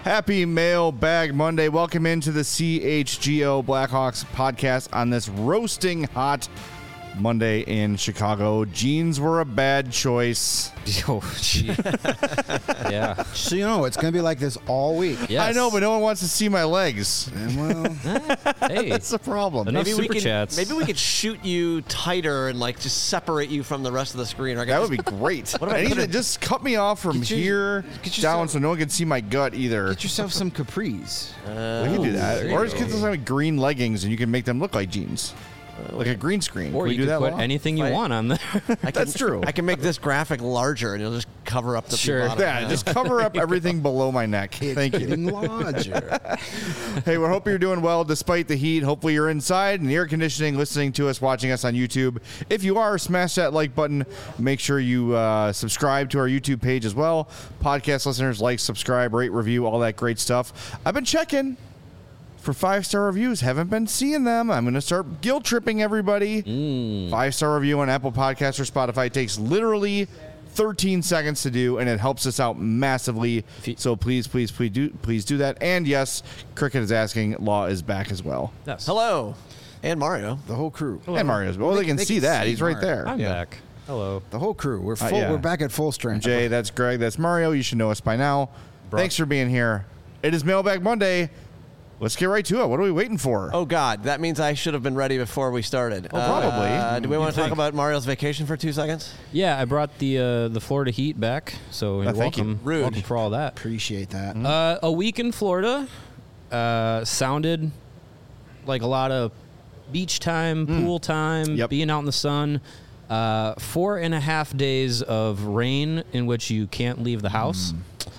Happy Mailbag Monday. Welcome into the CHGO Blackhawks podcast on this roasting hot Monday in Chicago. Jeans were a bad choice. Oh, gee. Yeah. So, it's going to be like this all week. Yes. I know, but no one wants to see my legs. Well, Hey. That's the problem. Enough Maybe we super could chats. maybe we could shoot you tighter and just separate you from the rest of the screen. Or I That could would be great. What if I I need put to it- just cut me off from Get your- here get yourself- down so no one can see my gut either. get yourself some capris. We can do that. there Or you just get go. some green leggings and you can make them look like jeans. Like a green screen. Or Can we you do could that put Law? anything you Right. want on there. That's true. I can make this graphic larger, and it'll just cover up the Sure. bottom. Yeah, just cover up everything below my neck. Thank you. Getting larger. Hey, we hope you're doing well despite the heat. Hopefully you're inside in the air conditioning, listening to us, watching us on YouTube. If you are, smash that like button. Make sure you subscribe to our YouTube page as well. Podcast listeners, like, subscribe, rate, review, all that great stuff. I've been checking for 5-star reviews. Haven't been seeing them. I'm going to start guilt tripping everybody. 5-star review on Apple Podcasts or Spotify. It takes literally 13 seconds to do, and it helps us out massively. So please do that. And yes, Cricket is asking. Law is back as well. Yes. Hello, and Mario. The whole crew. And Mario's. Well, they can see that. He's right there. I'm back. Hello. The whole crew. We're full. yeah. We're back at full strength. Jay, that's Greg. That's Mario. You should know us by now. Thanks for being here. It is Mailbag Monday. Let's get right to it. What are we waiting for? Oh God, that means I should have been ready before we started. probably. Do we want to talk think. about Mario's vacation for 2 seconds? Yeah, I brought the Florida Heat back, so you're thank you. welcome. Rude. Welcome for all that. Appreciate that. A week in Florida sounded like a lot of beach time, pool time, Yep. being out in the sun. 4.5 days of rain in which you can't leave the house.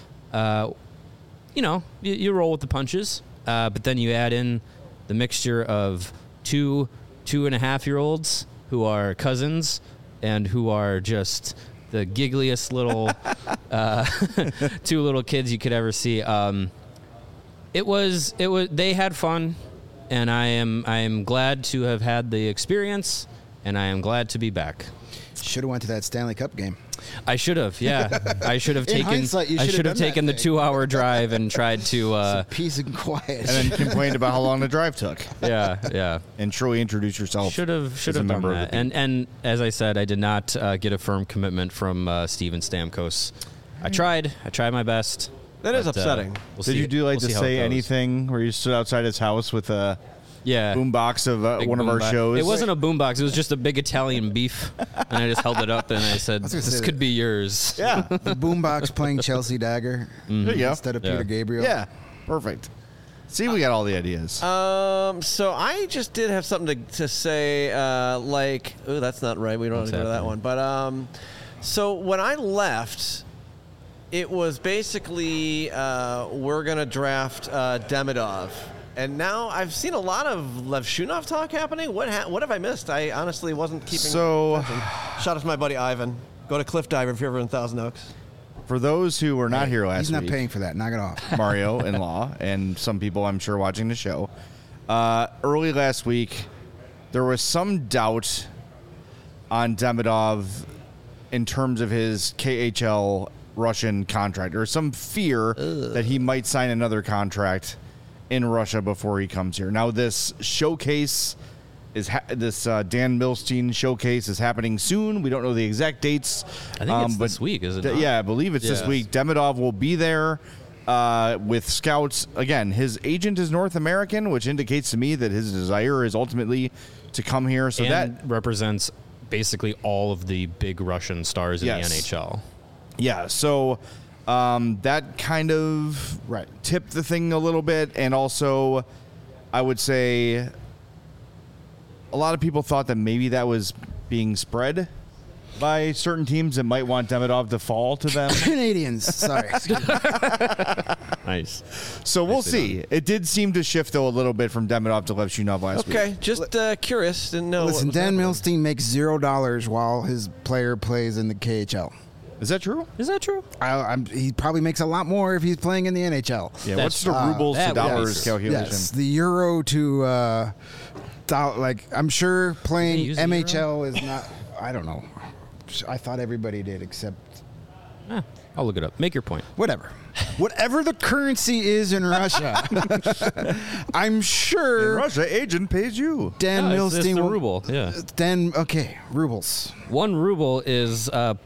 You roll with the punches, but then you add in the mixture of 2.5-year-olds who are cousins and who are just the giggliest little two little kids you could ever see. It was they had fun, and I am glad to have had the experience, and I am glad to be back. Should have went to that Stanley Cup game. I should have, yeah. I should have In taken. hindsight, you I should have should have done that taken the thing. 2-hour drive and tried to. Peace and quiet. And then complained about how long the drive took. Yeah. And truly introduce yourself. Should have as a done member of that. the And as I said, I did not get a firm commitment from Steven Stamkos. I tried my best. That is but, upsetting. We'll Did see- you do like we'll to see how it say goes. anything where you stood outside his house with a Yeah. boombox of Big one of our boombox. shows? It wasn't a boombox. It was just a big Italian beef, and I just held it up and I said, was gonna "This say could that. be yours." Yeah. The boombox playing Chelsea Dagger There you go. instead of Yeah. Peter Gabriel. Yeah. Perfect. See, we got all the ideas. So I just did have something to say, oh, that's not right. We don't What's have to go to that happening? one. But so when I left, it was basically we're gonna draft Demidov, and now I've seen a lot of Levshunov talk happening. What have I missed? I honestly wasn't keeping. So- attention. Shout out to my buddy Ivan. Go to Cliff Diver if you're ever in Thousand Oaks. For those who were not here last He's not week, paying for that. Knock it off. Mario in law, and some people I'm sure watching the show. Early last week, there was some doubt on Demidov in terms of his KHL Russian contract, or some fear that he might sign another contract in Russia before he comes here. Now, this showcase is Dan Milstein showcase is happening soon. We don't know the exact dates. I think it's but this week, is it not? Yeah, I believe it's this Yes. week. Demidov will be there with scouts. Again, his agent is North American, which indicates to me that his desire is ultimately to come here. So and that represents basically all of the big Russian stars in Yes. the NHL. Yeah, so that kind of Right. tipped the thing a little bit. And also, I would say a lot of people thought that maybe that was being spread by certain teams that might want Demidov to fall to them. Canadians. Sorry. Nice. So we'll Nicely see. It did seem to shift, though, a little bit from Demidov to Levshunov last week. Okay, just curious. Didn't know. Listen, what was Dan happening. Milstein makes $0 while his player plays in the KHL. Is that true? Is that true? He probably makes a lot more if he's playing in the NHL. Yeah, That's- what's the rubles to that dollars was- calculation? Yes, the euro to I'm sure They playing use the MHL is not. I don't know. I thought everybody did except I'll look it up. Make your point. Whatever the currency is in Russia, I'm sure Russia agent pays you. Dan No, Milstein it's the will. ruble. Yeah. Okay, rubles. 1 ruble is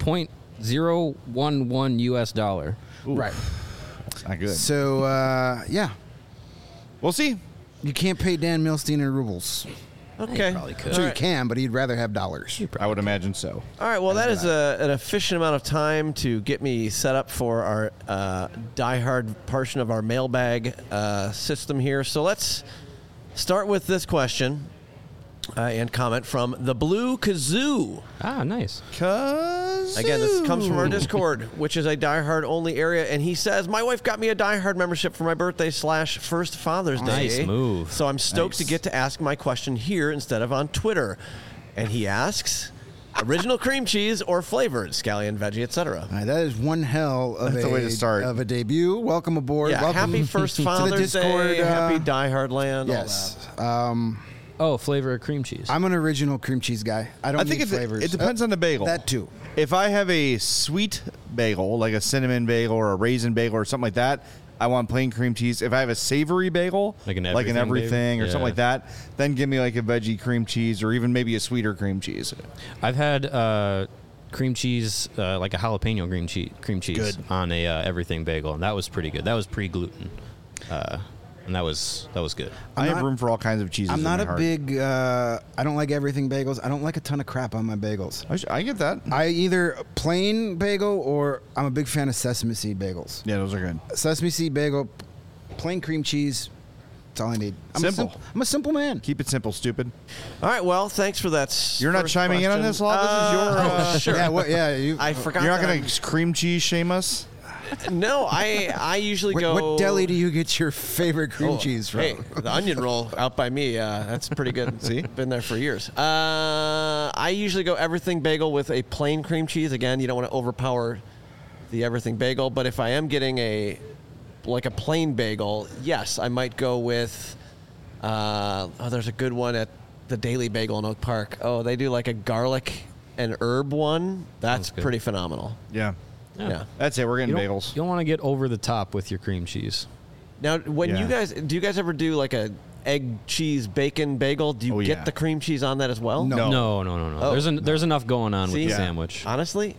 $0.011 US dollar. Right. It's not good. So, yeah. We'll see. You can't pay Dan Milstein in rubles. Okay. probably could. I'm sure All you right. can, but he'd rather have dollars. I would imagine so. All right, well, that is an efficient amount of time to get me set up for our diehard portion of our mailbag system here. So let's start with this question and comment from the Blue Kazoo. Ah, nice. Again, this comes from our Discord, which is a diehard only area, and he says, "My wife got me a diehard membership for my birthday / first Father's Day. Nice move. So I'm stoked to get to ask my question here instead of on Twitter." And he asks, "Original cream cheese or flavored scallion, veggie, etc." All right, that is one hell of That's the way to start. of a debut. Welcome aboard. Yeah, Welcome happy first to the Father's Discord. Day, happy diehard land. all Yes. Oh, flavor of cream cheese. I'm an original cream cheese guy. I don't I think need flavors. it depends on the bagel. That too. If I have a sweet bagel, like a cinnamon bagel or a raisin bagel or something like that, I want plain cream cheese. If I have a savory bagel, Like an everything everything or bagel? something Yeah. like that, then give me like a veggie cream cheese or even maybe a sweeter cream cheese. I've had cream cheese, like a jalapeno cream cheese Good. on a everything bagel, and that was pretty good. That was pre-gluten, and that was good. I have not- room for all kinds of cheeses. I'm in not my a heart. big. I don't like everything bagels. I don't like a ton of crap on my bagels. I get that. I either plain bagel or I'm a big fan of sesame seed bagels. Yeah, those are good. Sesame seed bagel, plain cream cheese. That's all I need. Simple. I'm a simple man. Keep it simple, stupid. All right, well, thanks for that. You're not first chiming in on question. this, Law? This is your. Sure. Yeah. What? Yeah. You, I forgot. You're not that going to cream cheese shame us? No, I usually go. what deli do you get your favorite cream cheese from? Hey, the onion roll out by me. That's pretty good. See? Been there for years. I usually go everything bagel with a plain cream cheese. Again, you don't want to overpower the everything bagel. But if I am getting a plain bagel, yes, I might go with. There's a good one at the Daily Bagel in Oak Park. Oh, they do like a garlic and herb one. That's Sounds good. pretty phenomenal. Yeah. Yeah. That's it. We're You getting don't, bagels. you don't want to get over the top with your cream cheese. Now, when Yeah. do you guys ever do like a egg, cheese, bacon bagel? Do you Oh, get yeah. the cream cheese on that as well? No. No. No. Oh. There's enough going on with See? the Yeah. sandwich. Honestly,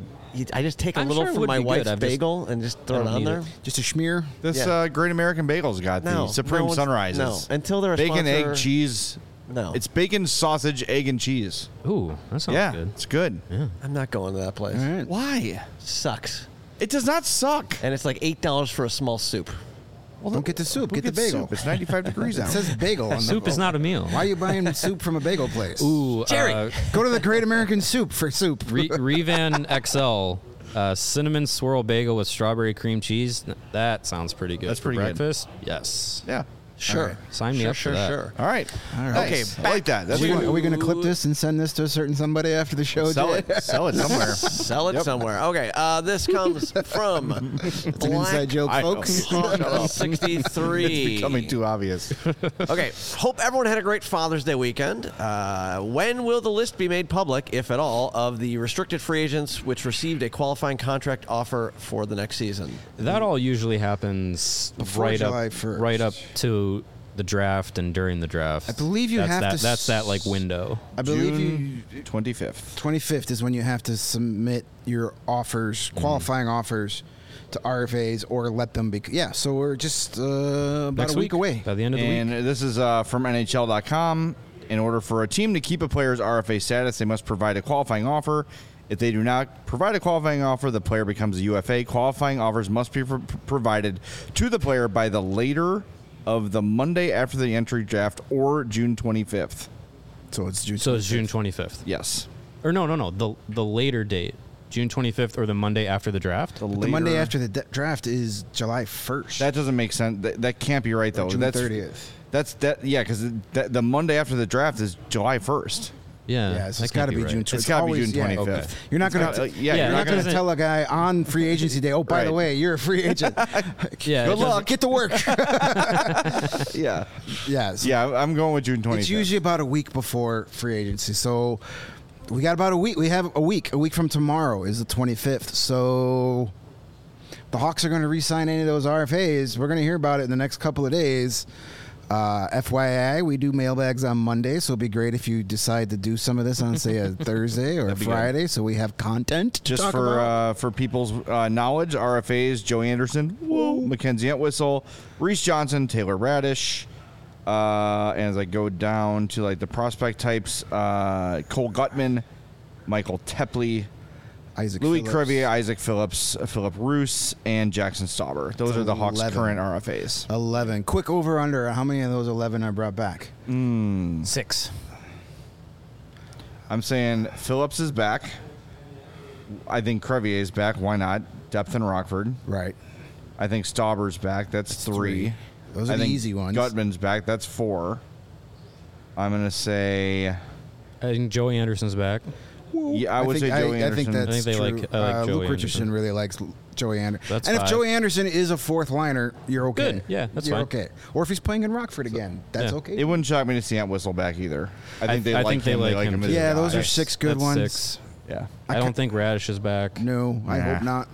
I just take a I'm little sure it from would my be good. wife's I've just- bagel and just throw I it don't on need there. it. Just a schmear. This Yeah. Great American Bagel's got No, the Supreme no one's- Sunrises. no, until they're a bacon, sponsor- egg, cheese. No, It's bacon, sausage, egg, and cheese. Ooh, that sounds Yeah, good. it's good. I'm not going to that place. All right. Why? Sucks, It does not suck. and it's like $8 for a small soup. Well, Don't get the soup. who Get the gets bagel. soup? It's 95 degrees It out. says bagel. on the Soup is not a meal. Why are you buying soup from a bagel place? Ooh, Jerry. Go to the Great American Soup for soup. Revan XL, cinnamon swirl bagel with strawberry cream cheese. That sounds pretty good. That's for pretty good. breakfast. Yes. Yeah. Sure, Sign me sure, up for sure, that. sure. All right. All right. Nice. Okay, I like that. That's Are we good. going to clip this and send this to a certain somebody after the show? Sell Jay? it. Sell it somewhere. Sell it somewhere. Okay, this comes from It's an inside joke, I know. folks. It's 63. becoming too obvious. Okay, hope everyone had a great Father's Day weekend. When will the list be made public, if at all, of the restricted free agents which received a qualifying contract offer for the next season? That all usually happens Before right July up, 1st. right up to the draft and during the draft. I believe you that's have that, to That's that like window. I believe June you 25th. 25th is when you have to submit your offers, qualifying offers to RFAs or let them be. Yeah, so we're just about Next a week away. by the end of the And week. this is from NHL.com. In order for a team to keep a player's RFA status, they must provide a qualifying offer. If they do not provide a qualifying offer, the player becomes a UFA. Qualifying offers must be provided to the player by the later of the Monday after the entry draft or June 25th. So it's June. So it's June 25th. Yes. Or no. The later date, June 25th or the Monday after the draft. The Monday after the draft is July 1st. That doesn't make sense. That can't be right, though. June That's 30th. That's that. Yeah, because the Monday after the draft is July 1st. Yeah, Yeah, so that it's got to can't be right. June. It's got to be June 25th. Okay. You're not It's going gotta- to. yeah, you're You're not not going to gonna- tell a guy on free agency day, oh, by the Right. way, you're a free agent. Yeah, Good luck. Get to work. Yeah. yeah. So Yeah, I'm going with June 25th. it's usually about a week before free agency. So We got about a week. We have a week. A week from tomorrow is the 25th. So the Hawks are going to re-sign any of those RFAs. We're going to hear about it in the next couple of days. FYI, we do mailbags on Monday, so it'd be great if you decide to do some of this on, say, a Thursday or a Friday, so we have content to Just talk about. For people's knowledge, RFAs: Joe Anderson, Mackenzie Entwistle, Reese Johnson, Taylor Radish, and as I go down to like the prospect types, Cole Gutman, Michael Tepley, Isaac Louis Phillips. Crevier, Isaac Phillips, Philip Roos, and Jackson Stauber. Those are the Hawks' 11. current RFAs. 11. Quick over-under. How many of those 11 are brought back? 6. I'm saying Phillips is back. I think Crevier is back. Why not? Depth in Rockford. Right. I think Stauber's back. That's 3. Those are I the think easy ones. Gutman's back. That's 4. I'm going to say... I think Joey Anderson's back. Yeah, I would say Joey I Anderson. think that's I think they true. like- I like Joey Luke Richardson Anderson. really likes Joey Anderson. That's and if five. Joey Anderson is a fourth liner, you're okay. Good. Yeah, that's you're fine. okay. Or if he's playing in Rockford again, that's yeah. okay. It wouldn't shock me to see Entwistle back either. I think they I like think they him. They like like him him too. as a Yeah, guy. those are 6 good That's ones. 6. Yeah. I don't think Radish is back. No, I Nah. hope not.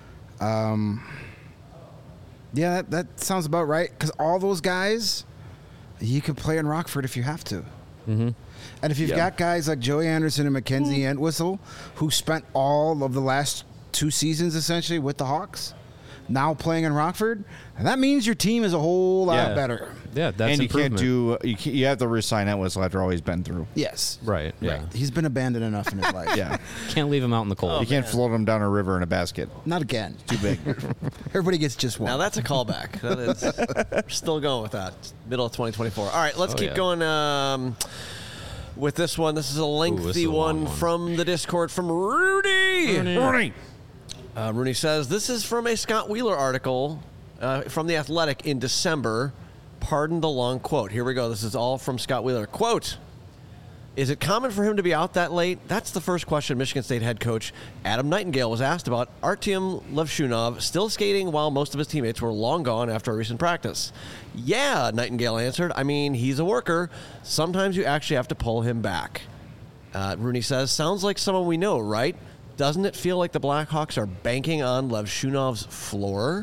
Yeah, that sounds about right. Because all those guys, you could play in Rockford if you have to. Mm-hmm. And if you've Yeah. got guys like Joey Anderson and Mackenzie Entwistle, who spent all of the last 2 seasons essentially with the Hawks, now playing in Rockford, and that means your team is a whole lot Yeah. better. Yeah, that's And you can't improvement. you have to resign Entwistle after all he's been through. Yes. Right. Yeah. Right. He's been abandoned enough in his life. Yeah. Can't leave him out in the cold. You can't float him down a river in a basket. Not again. Too big. Everybody gets just one. Now that's a callback. That is, we're still going with that. Middle of 2024. All right, let's Oh, keep yeah. going with this one. This is a lengthy this is a long one one. from the Discord from Rudy. Rooney says, this is from a Scott Wheeler article from The Athletic in December. Pardon the long quote. Here we go. This is all from Scott Wheeler. Quote, is it common for him to be out that late? That's the first question Michigan State head coach Adam Nightingale was asked about Artyom Levshunov still skating while most of his teammates were long gone after a recent practice. Yeah, Nightingale answered. I mean, he's a worker. Sometimes you actually have to pull him back. Rooney says, sounds like someone we know, right? Doesn't it feel like the Blackhawks are banking on Levshunov's floor?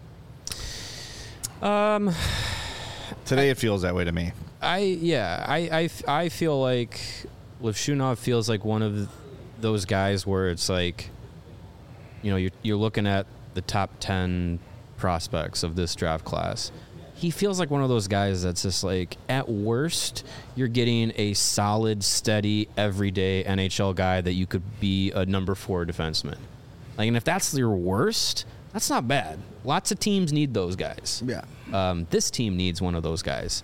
Today it feels that way to me. I feel like Levshunov feels like one of those guys where it's like, you know, you're looking at the top 10 prospects of this draft class. He feels like one of those guys that's just like, at worst, you're getting a solid, steady, everyday NHL guy that you could be a number 4 defenseman. Like, and if that's your worst, that's not bad. Lots of teams need those guys. Yeah. This team needs one of those guys.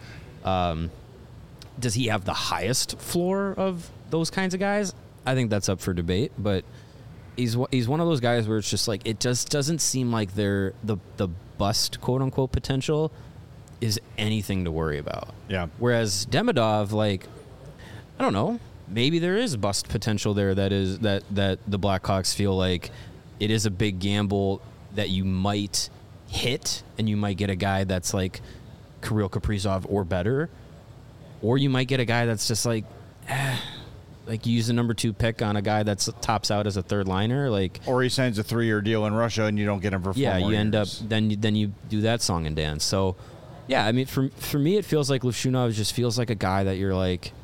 Does he have the highest floor of those kinds of guys? I think that's up for debate, but he's one of those guys where it's just like, it just doesn't seem like they're the bust, quote unquote, potential is anything to worry about. Yeah. Whereas Demidov, like, I don't know, maybe there is bust potential there that the Blackhawks feel like it is a big gamble that you might hit, and you might get a guy that's like Kirill Kaprizov or better, or you might get a guy that's just like, like you use the number 2 pick on a guy that's tops out as a third liner, like, Or he signs a 3-year deal in Russia and you don't get him for 4 yeah, more you end up years. then you do that song and dance. So, yeah, I mean, for me, it feels like Levshunov just feels like a guy that you're like,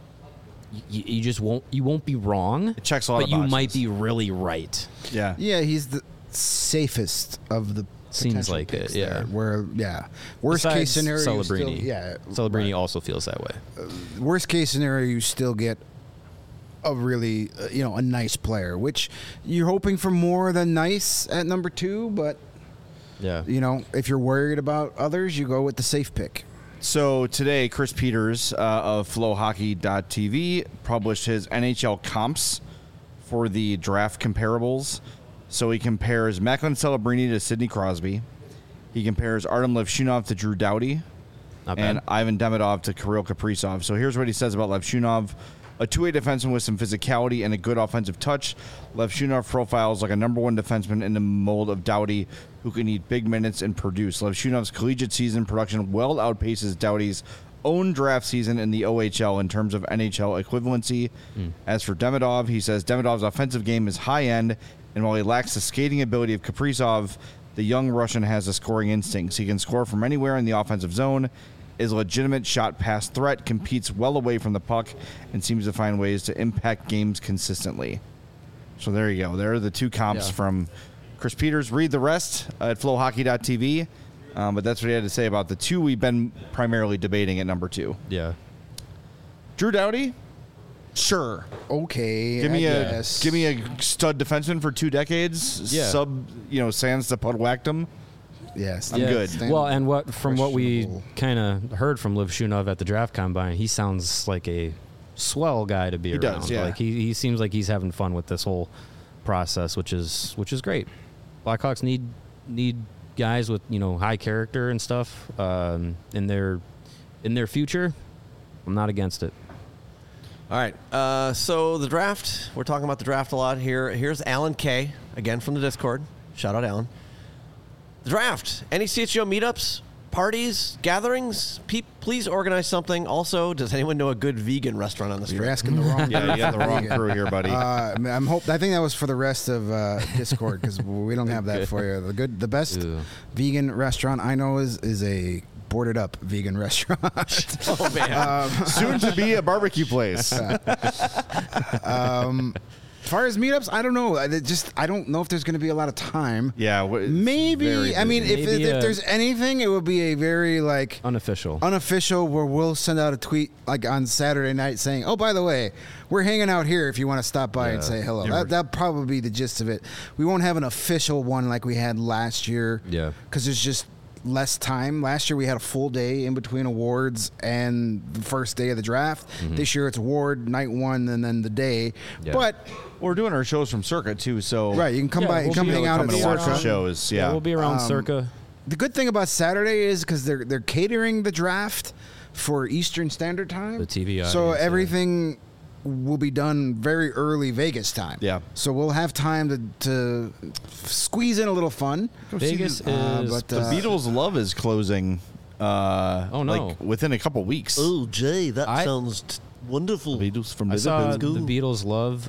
you just won't be wrong. It checks a lot but of you boxes. might be really right. Yeah. Yeah, he's the safest of the Seems potential like it, picks yeah. there, where, worst Besides case scenario, you Celebrini. still, Celebrini right. also feels that way. Worst case scenario, you still get a really, a nice player, which you're hoping for more than nice at number 2, but, Yeah. if you're worried about others, you go with the safe pick. So today, Chris Peters of FlowHockey.tv published his NHL comps for the draft comparables. So he compares Macklin Celebrini to Sidney Crosby. He compares Artem Levshunov to Drew Doughty. Not And bad. Ivan Demidov to Kirill Kaprizov. So here's what he says about Levshunov. A two-way defenseman with some physicality and a good offensive touch. Levshunov profiles like a number 1 defenseman in the mold of Doughty, who can eat big minutes and produce. Levshunov's collegiate season production well outpaces Doughty's own draft season in the OHL in terms of NHL equivalency. As for Demidov, he says Demidov's offensive game is high-end, and while he lacks the skating ability of Kaprizov, the young Russian has the scoring instincts. He can score from anywhere in the offensive zone, is a legitimate shot-pass threat, competes well away from the puck, and seems to find ways to impact games consistently. So there you go. There are the two comps from Chris Peters. Read the rest at flowhockey.tv. But that's what he had to say about the two we've been primarily debating at number 2. Yeah. Drew Doughty? Sure. Okay. Give me I a guess. stud defenseman for 2 decades. Yeah. Sans the Podwactum. Yes. I'm good. Well, and from what we Questionable. kind of heard from Liv Shunov at the draft combine, he sounds like a swell guy to be He around. does, yeah. Like he seems like he's having fun with this whole process, which is great. Blackhawks need guys with high character and stuff in their future. I'm not against it. All right. So the draft, we're talking about the draft a lot here. Here's Alan K, again from the Discord. Shout out, Alan. The draft. Any CHGO meetups, parties, gatherings? Please organize something. Also, does anyone know a good vegan restaurant on the You're strip? asking the wrong. Yeah, you got the wrong crew here, buddy. I think that was for the rest of Discord because we don't have that for you. The best Ew. vegan vegan restaurant I know is a boarded up vegan restaurant. Oh, man. Soon to be a barbecue place. As far as meetups, I don't know. I don't know if there's going to be a lot of time. Yeah. Very Maybe. I mean, busy. if Maybe, there's anything, it would be a very Unofficial. unofficial where we'll send out a tweet like on Saturday night saying, "Oh, by the way, we're hanging out here if you want to stop by and Yeah. say hello." Yeah. That'll probably be the gist of it. We won't have an official one like we had last year. Yeah. Because there's just less time. Last year we had a full day in between awards and the first day of the draft. This year it's award night 1 and then the day. Yeah. But We're doing our shows from Circuit, too, so... right, you can come Yeah, by, we'll come be hang able out to at Come the and watch the Circa. shows, yeah. We'll be around circa. The good thing about Saturday is because they're catering the draft for Eastern Standard Time. The TV So audience, yeah. everything will be done very early Vegas time. Yeah. So we'll have time to squeeze in a little fun. Vegas is but, The Beatles' Love is closing Oh, no. like within a couple weeks. Oh, Jay, that I- sounds wonderful. Beatles from I saw Liverpool. the Beatles Love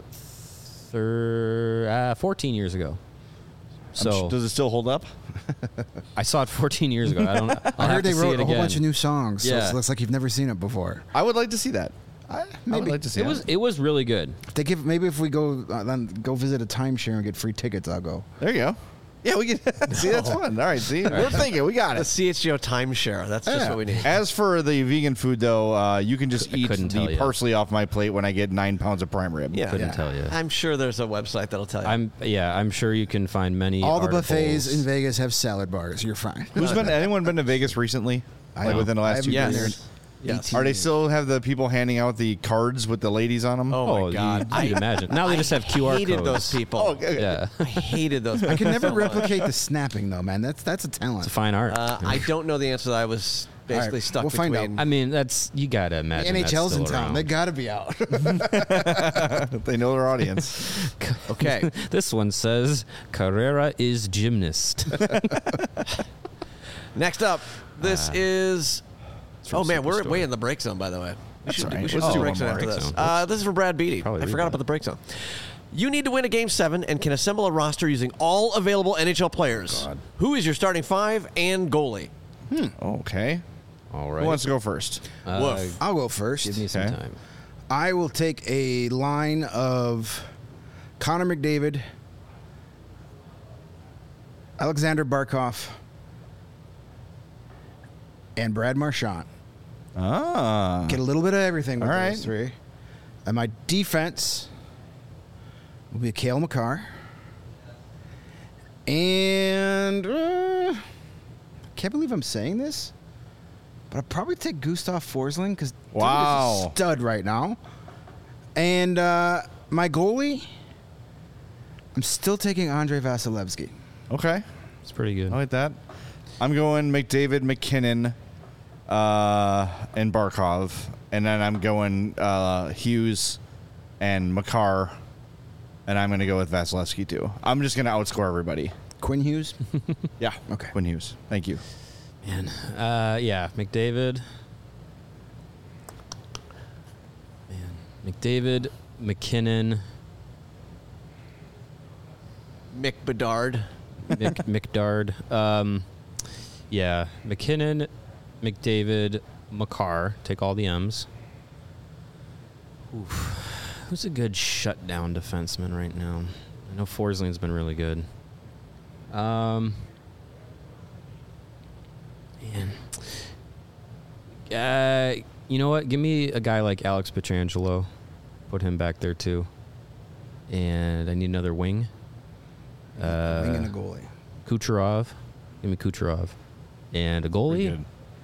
14 years ago. So Does it still hold up? I saw it 14 years ago. I heard they wrote a whole bunch of new. new songs, so Yeah. it looks like you've never seen it before. I would like to see that. I would like to see It was really good. If they give maybe if we go then go visit a timeshare and get free tickets, I'll go. There you go. Yeah, we can see. That's fun. All right, see, we're thinking we got The it. CHGO timeshare. That's just Yeah. what we need. As for the vegan food, though, you can just eat couldn't tell the you. parsley off my plate when I get 9 pounds of prime rib. Yeah. Couldn't tell you. I'm sure there's a website that'll tell you. I'm sure you can find many. All the articles. buffets in Vegas have salad bars. You're fine. Anyone been to Vegas recently? Like don't. within the I last 2 haven't been years? there. Yes. Are they still have the people handing out the cards with the ladies on them? Oh, my God. You'd imagine. Now they just have QR hated codes. those people. Oh, okay. Yeah, I hated those people. I can never so much. replicate the snapping though, man. That's a talent. it's a fine art. I don't know the answer. I was basically All right, stuck we'll find between. out. I mean, you gotta The imagine. that's NHL's in still town. around. They got to be out. They know their audience. Okay. This one says Carrera is gymnast. Next up, this is. Oh man, we're Superstore. way in the break zone, by the way. We should, all do, right. we should Let's do do break one zone more. after Break this. zone. This is from Brad Beatty. Probably I read forgot that. about the break zone. You need to win a game 7 and can assemble a roster using all available NHL players. God. Who is your starting 5 and goalie? Okay. All Who right. wants to go first? Woof. I'll go first. Give me some Okay. time. I will take a line of Connor McDavid, Alexander Barkov, and Brad Marchand. Ah. Get a little bit of everything with All right. those three. And my defense will be Cale Makar. And can't believe I'm saying this, but I'll probably take Gustav Forsling because Wow. is a stud right now. And my goalie, I'm still taking Andrei Vasilevsky. Okay. It's pretty good. I like that. I'm going McDavid, McKinnon, and Barkov. And then I'm going Hughes and Makar. And I'm going to go with Vasilevsky, too. I'm just going to outscore everybody. Quinn Hughes. Yeah. Okay. Quinn Hughes. Thank you. Man. Yeah, McDavid, McDavid, McKinnon, Mick Bedard. McDard. Yeah, McKinnon, McDavid, Makar. Take all the M's. Oof. Who's a good shutdown defenseman right now? I know Forsland's been really good. Man. You know what? Give me a guy like Alex Pietrangelo. Put him back there too. And I need another wing. Wing and a goalie. Kucherov. Give me Kucherov. And a goalie.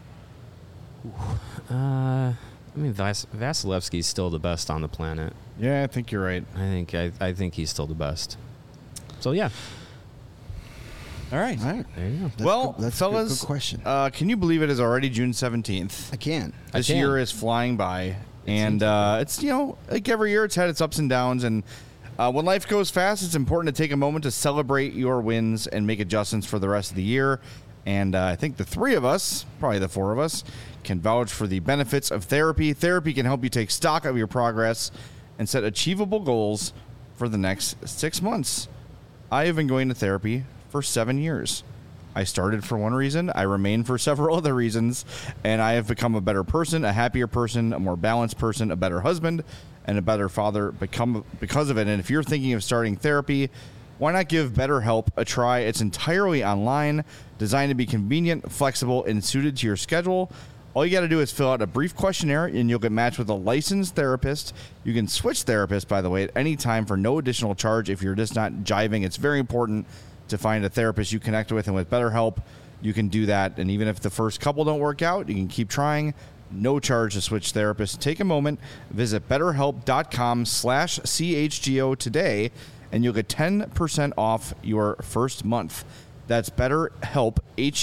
I mean, Vasilevsky's still the best on the planet. Yeah, I think you're right. I think he's still the best. So yeah. All right. All right. There you go. Well, that's fellas, a good question. Can you believe it is already June 17th? I can. This can. year is flying by, and it's, like every year it's had its ups and downs, and when life goes fast, it's important to take a moment to celebrate your wins and make adjustments for the rest of the year. And I think the three of us, probably the four of us, can vouch for the benefits of therapy. Therapy can help you take stock of your progress and set achievable goals for the next 6 months. I have been going to therapy for 7 years. I started for one reason, I remain for several other reasons, and I have become a better person, a happier person, a more balanced person, a better husband, and a better father because of it. And if you're thinking of starting therapy, why not give BetterHelp a try? It's entirely online, designed to be convenient, flexible, and suited to your schedule. All you got to do is fill out a brief questionnaire, and you'll get matched with a licensed therapist. You can switch therapists, by the way, at any time for no additional charge if you're just not jiving. It's very important to find a therapist you connect with, and with BetterHelp, you can do that. And even if the first couple don't work out, you can keep trying. No charge to switch therapists. Take a moment, visit BetterHelp.com/CHGO today, and you'll get 10% off your first month. That's BetterHelp,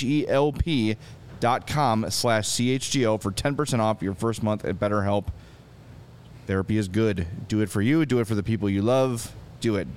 HELP.com/CHGO for 10% off your first month at BetterHelp. Therapy is good. Do it for you. Do it for the people you love. Do it.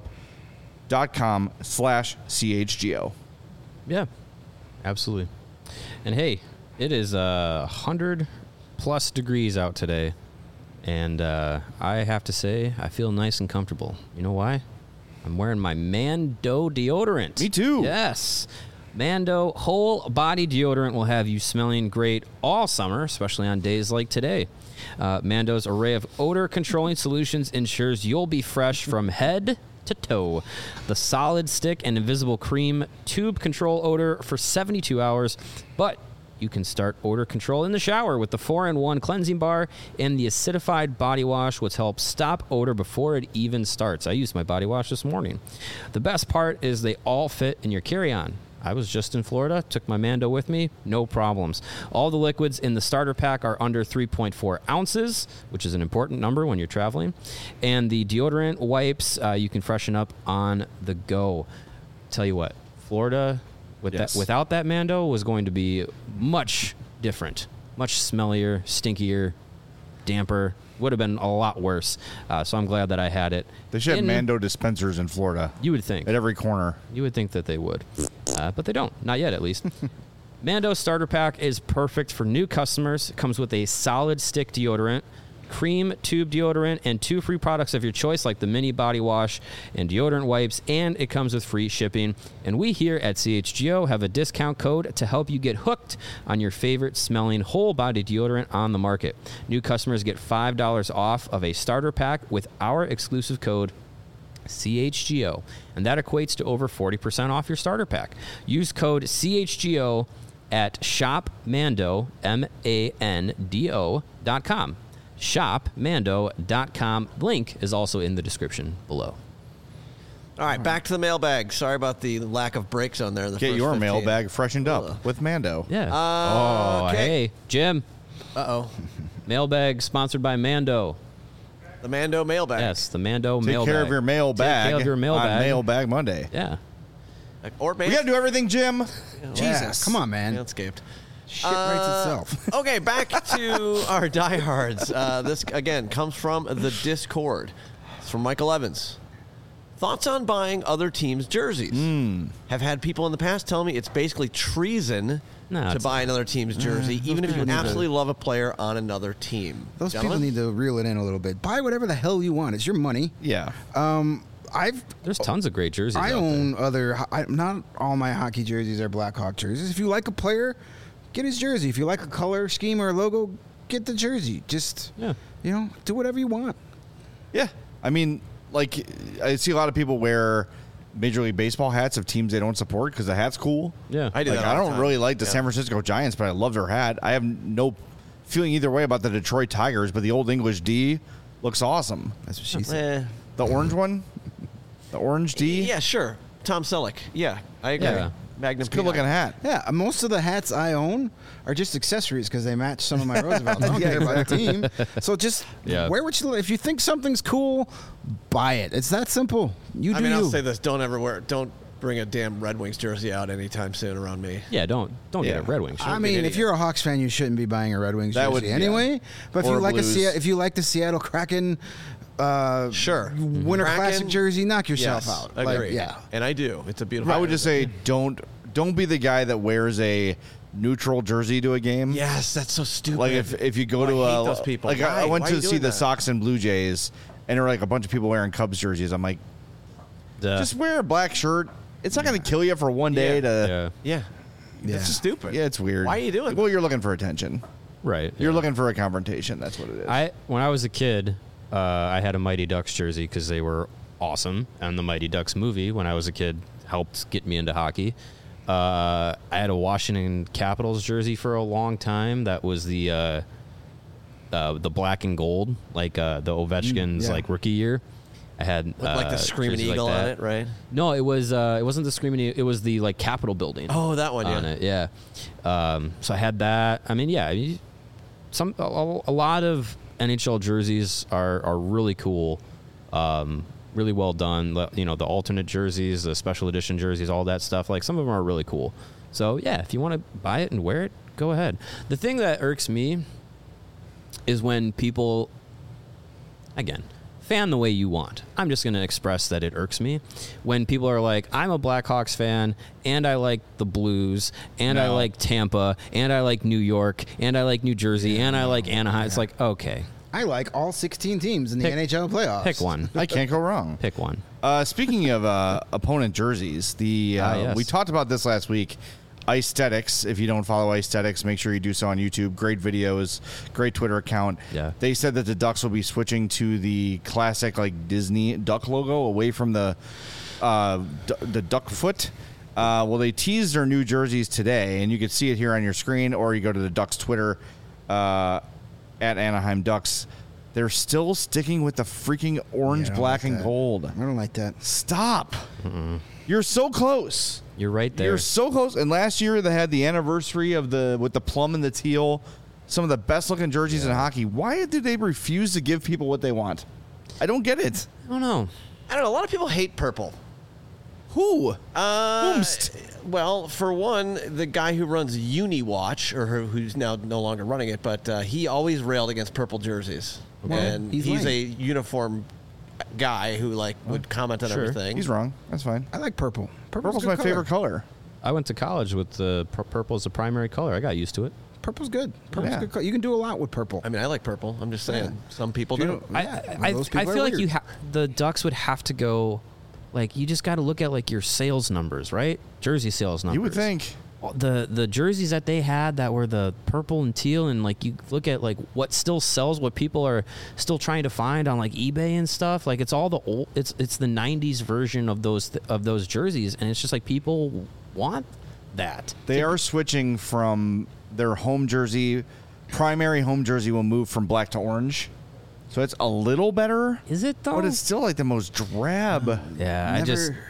BetterHelp.com/CHGO. Yeah, absolutely. And hey, it is 100 plus degrees out today. And I have to say, I feel nice and comfortable. You know why? I'm wearing my Mando deodorant. Me too. Yes. Mando whole body deodorant will have you smelling great all summer, especially on days like today. Mando's array of odor controlling solutions ensures you'll be fresh from head to toe. The solid stick and invisible cream tube control odor for 72 hours, but you can start odor control in the shower with the 4-in-1 cleansing bar and the acidified body wash, which helps stop odor before it even starts. I used my body wash this morning. The best part is they all fit in your carry-on. I was just in Florida, took my Mando with me, no problems. All the liquids in the starter pack are under 3.4 ounces, which is an important number when you're traveling. And the deodorant wipes, you can freshen up on the go. Tell you what, Florida without that Mando was going to be much different, much smellier, stinkier, damper. Would have been a lot worse. So I'm glad that I had it. They should have Mando dispensers in Florida. You would think. At every corner. You would think that they would. But they don't. Not yet, at least. Mando Starter Pack is perfect for new customers. It comes with a solid stick deodorant, cream tube deodorant, and 2 free products of your choice, like the mini body wash and deodorant wipes, and it comes with free shipping. And we here at CHGO have a discount code to help you get hooked on your favorite smelling whole body deodorant on the market. New customers get $5 off of a starter pack with our exclusive code CHGO, and that equates to over 40% off your starter pack. Use code CHGO at shopmando, MANDO.com. shopmando.com. Link is also in the description below. All right, back to the mailbag. Sorry about the lack of breaks on there. Get your mailbag freshened up with Mando. Yeah. Okay. Hey, Jim. Uh-oh. Mailbag sponsored by Mando. The Mando mailbag. Yes, the Mando Take mailbag. care of your mailbag. Take care of your mailbag. On Mailbag Monday. Yeah. Or We got to do everything, Jim. Jesus. Come on, man. Manscaped. Shit writes itself. Okay, back to our diehards. This, again, comes from the Discord. It's from Michael Evans. Thoughts on buying other teams' jerseys? Have had people in the past tell me it's basically treason to buy another team's jersey, even if you absolutely love a player on another team. Those Gentlemen? people need to reel it in a little bit. Buy whatever the hell you want. It's your money. Yeah. There's tons of great jerseys. I out own there. not all my hockey jerseys are Blackhawk jerseys. If you like a player, get his jersey. If you like a color scheme or a logo, get the jersey. Just, do whatever you want. Yeah. I mean, like, I see a lot of people wear Major League Baseball hats of teams they don't support because the hat's cool. Yeah. I do Like, that all I the don't time. really like the Yeah. San Francisco Giants, but I love their hat. I have no feeling either way about the Detroit Tigers, but the Old English D looks awesome. That's what she said. The orange one? The orange D? Yeah, sure. Tom Selleck. Yeah, I agree. Yeah. Magnum It's a good looking PI. hat. Yeah, most of the hats I own are just accessories because they match some of my Roosevelts. I don't care about the team. So just wear what you. If you think something's cool, buy it. It's that simple. You do I'll you. say this: don't bring a damn Red Wings jersey out anytime soon around me. Yeah, don't get a Red Wings shirt. I mean, if you're a Hawks fan, you shouldn't be buying a Red Wings That jersey would- anyway. But if Or you like Blues. if you like the Seattle Kraken, Sure. Winter Kraken, Classic jersey, knock yourself yes, out. Agree. Like, yeah. And I do. It's a beautiful. I would just say don't be the guy that wears a neutral jersey to a game. yes, that's so stupid. Like if you go Oh, to I hate a those people. like I Why? went Why to are you see doing the that? Sox and Blue Jays, and there were like a bunch of people wearing Cubs jerseys. I'm like, just wear a black shirt. It's not going to kill you for one day to. yeah. It's just stupid. Yeah, it's weird. Why are you doing Well, that? you're looking for attention. right. You're looking for a confrontation. That's what it is. When I was a kid, I had a Mighty Ducks jersey because they were awesome, and the Mighty Ducks movie when I was a kid helped get me into hockey. I had a Washington Capitals jersey for a long time. That was the black and gold, like the Ovechkin's yeah. like rookie year. I had Like the Screaming jerseys like Eagle on that. it, right? No, it wasn't the Screaming Eagle. It was the like Capitol building. Oh, that one, on yeah. it, yeah. So I had that. I mean, yeah, a lot of NHL jerseys are really cool, really well done. You know, the alternate jerseys, the special edition jerseys, all that stuff. Like some of them are really cool. So yeah, if you want to buy it and wear it, go ahead. The thing that irks me is when people, again, fan the way you want. I'm just going to express that it irks me when people are like, I'm a Blackhawks fan and I like the Blues and I like Tampa and I like New York and I like New Jersey and I like Anaheim. It's like, okay, I like all 16 teams in the NHL playoffs. pick one. I can't go wrong. Pick one. Speaking of opponent jerseys, yes. we talked about this last week. Icethetics. If you don't follow Icethetics, make sure you do so on YouTube. Great videos, great Twitter account. Yeah. They said that the Ducks will be switching to the classic like Disney duck logo away from the duck foot. Well, they teased their new jerseys today, and you can see it here on your screen, or you go to the Ducks Twitter at Anaheim Ducks. They're still sticking with the freaking orange, Yeah, I don't black, like and that. gold. I don't like that. Stop. You're so close. You're right there. You're so close. And last year they had the anniversary of with the plum and the teal, some of the best looking jerseys in hockey. Why did they refuse to give people what they want? I don't get it. I don't know. I don't know. A lot of people hate purple. Who? Whomst? Well, for one, the guy who runs UniWatch, or who's now no longer running it, but he always railed against purple jerseys. Well, and he's he's a lame. uniform guy who would comment on Sure. everything. He's wrong. That's fine. I like purple. Purple's good my color. favorite color. I went to college with the purple as the primary color. I got used to it. Purple's good. Purple's Yeah. good color. You can do a lot with purple. I mean, I like purple. I'm just saying. Yeah. Some people You don't. know, I those people are feel like weird. the Ducks would have to go, like, you just got to look at like your sales numbers, right? Jersey sales numbers. You would think. The jerseys that they had that were the purple and teal, and like you look at like what still sells, what people are still trying to find on like eBay and stuff. Like it's all the old, it's the '90s version of those jerseys, and it's just like people want that. They are switching from their home jersey. Primary home jersey will move from black to orange. So it's a little better. Is it though? But it's still like the most drab. Yeah,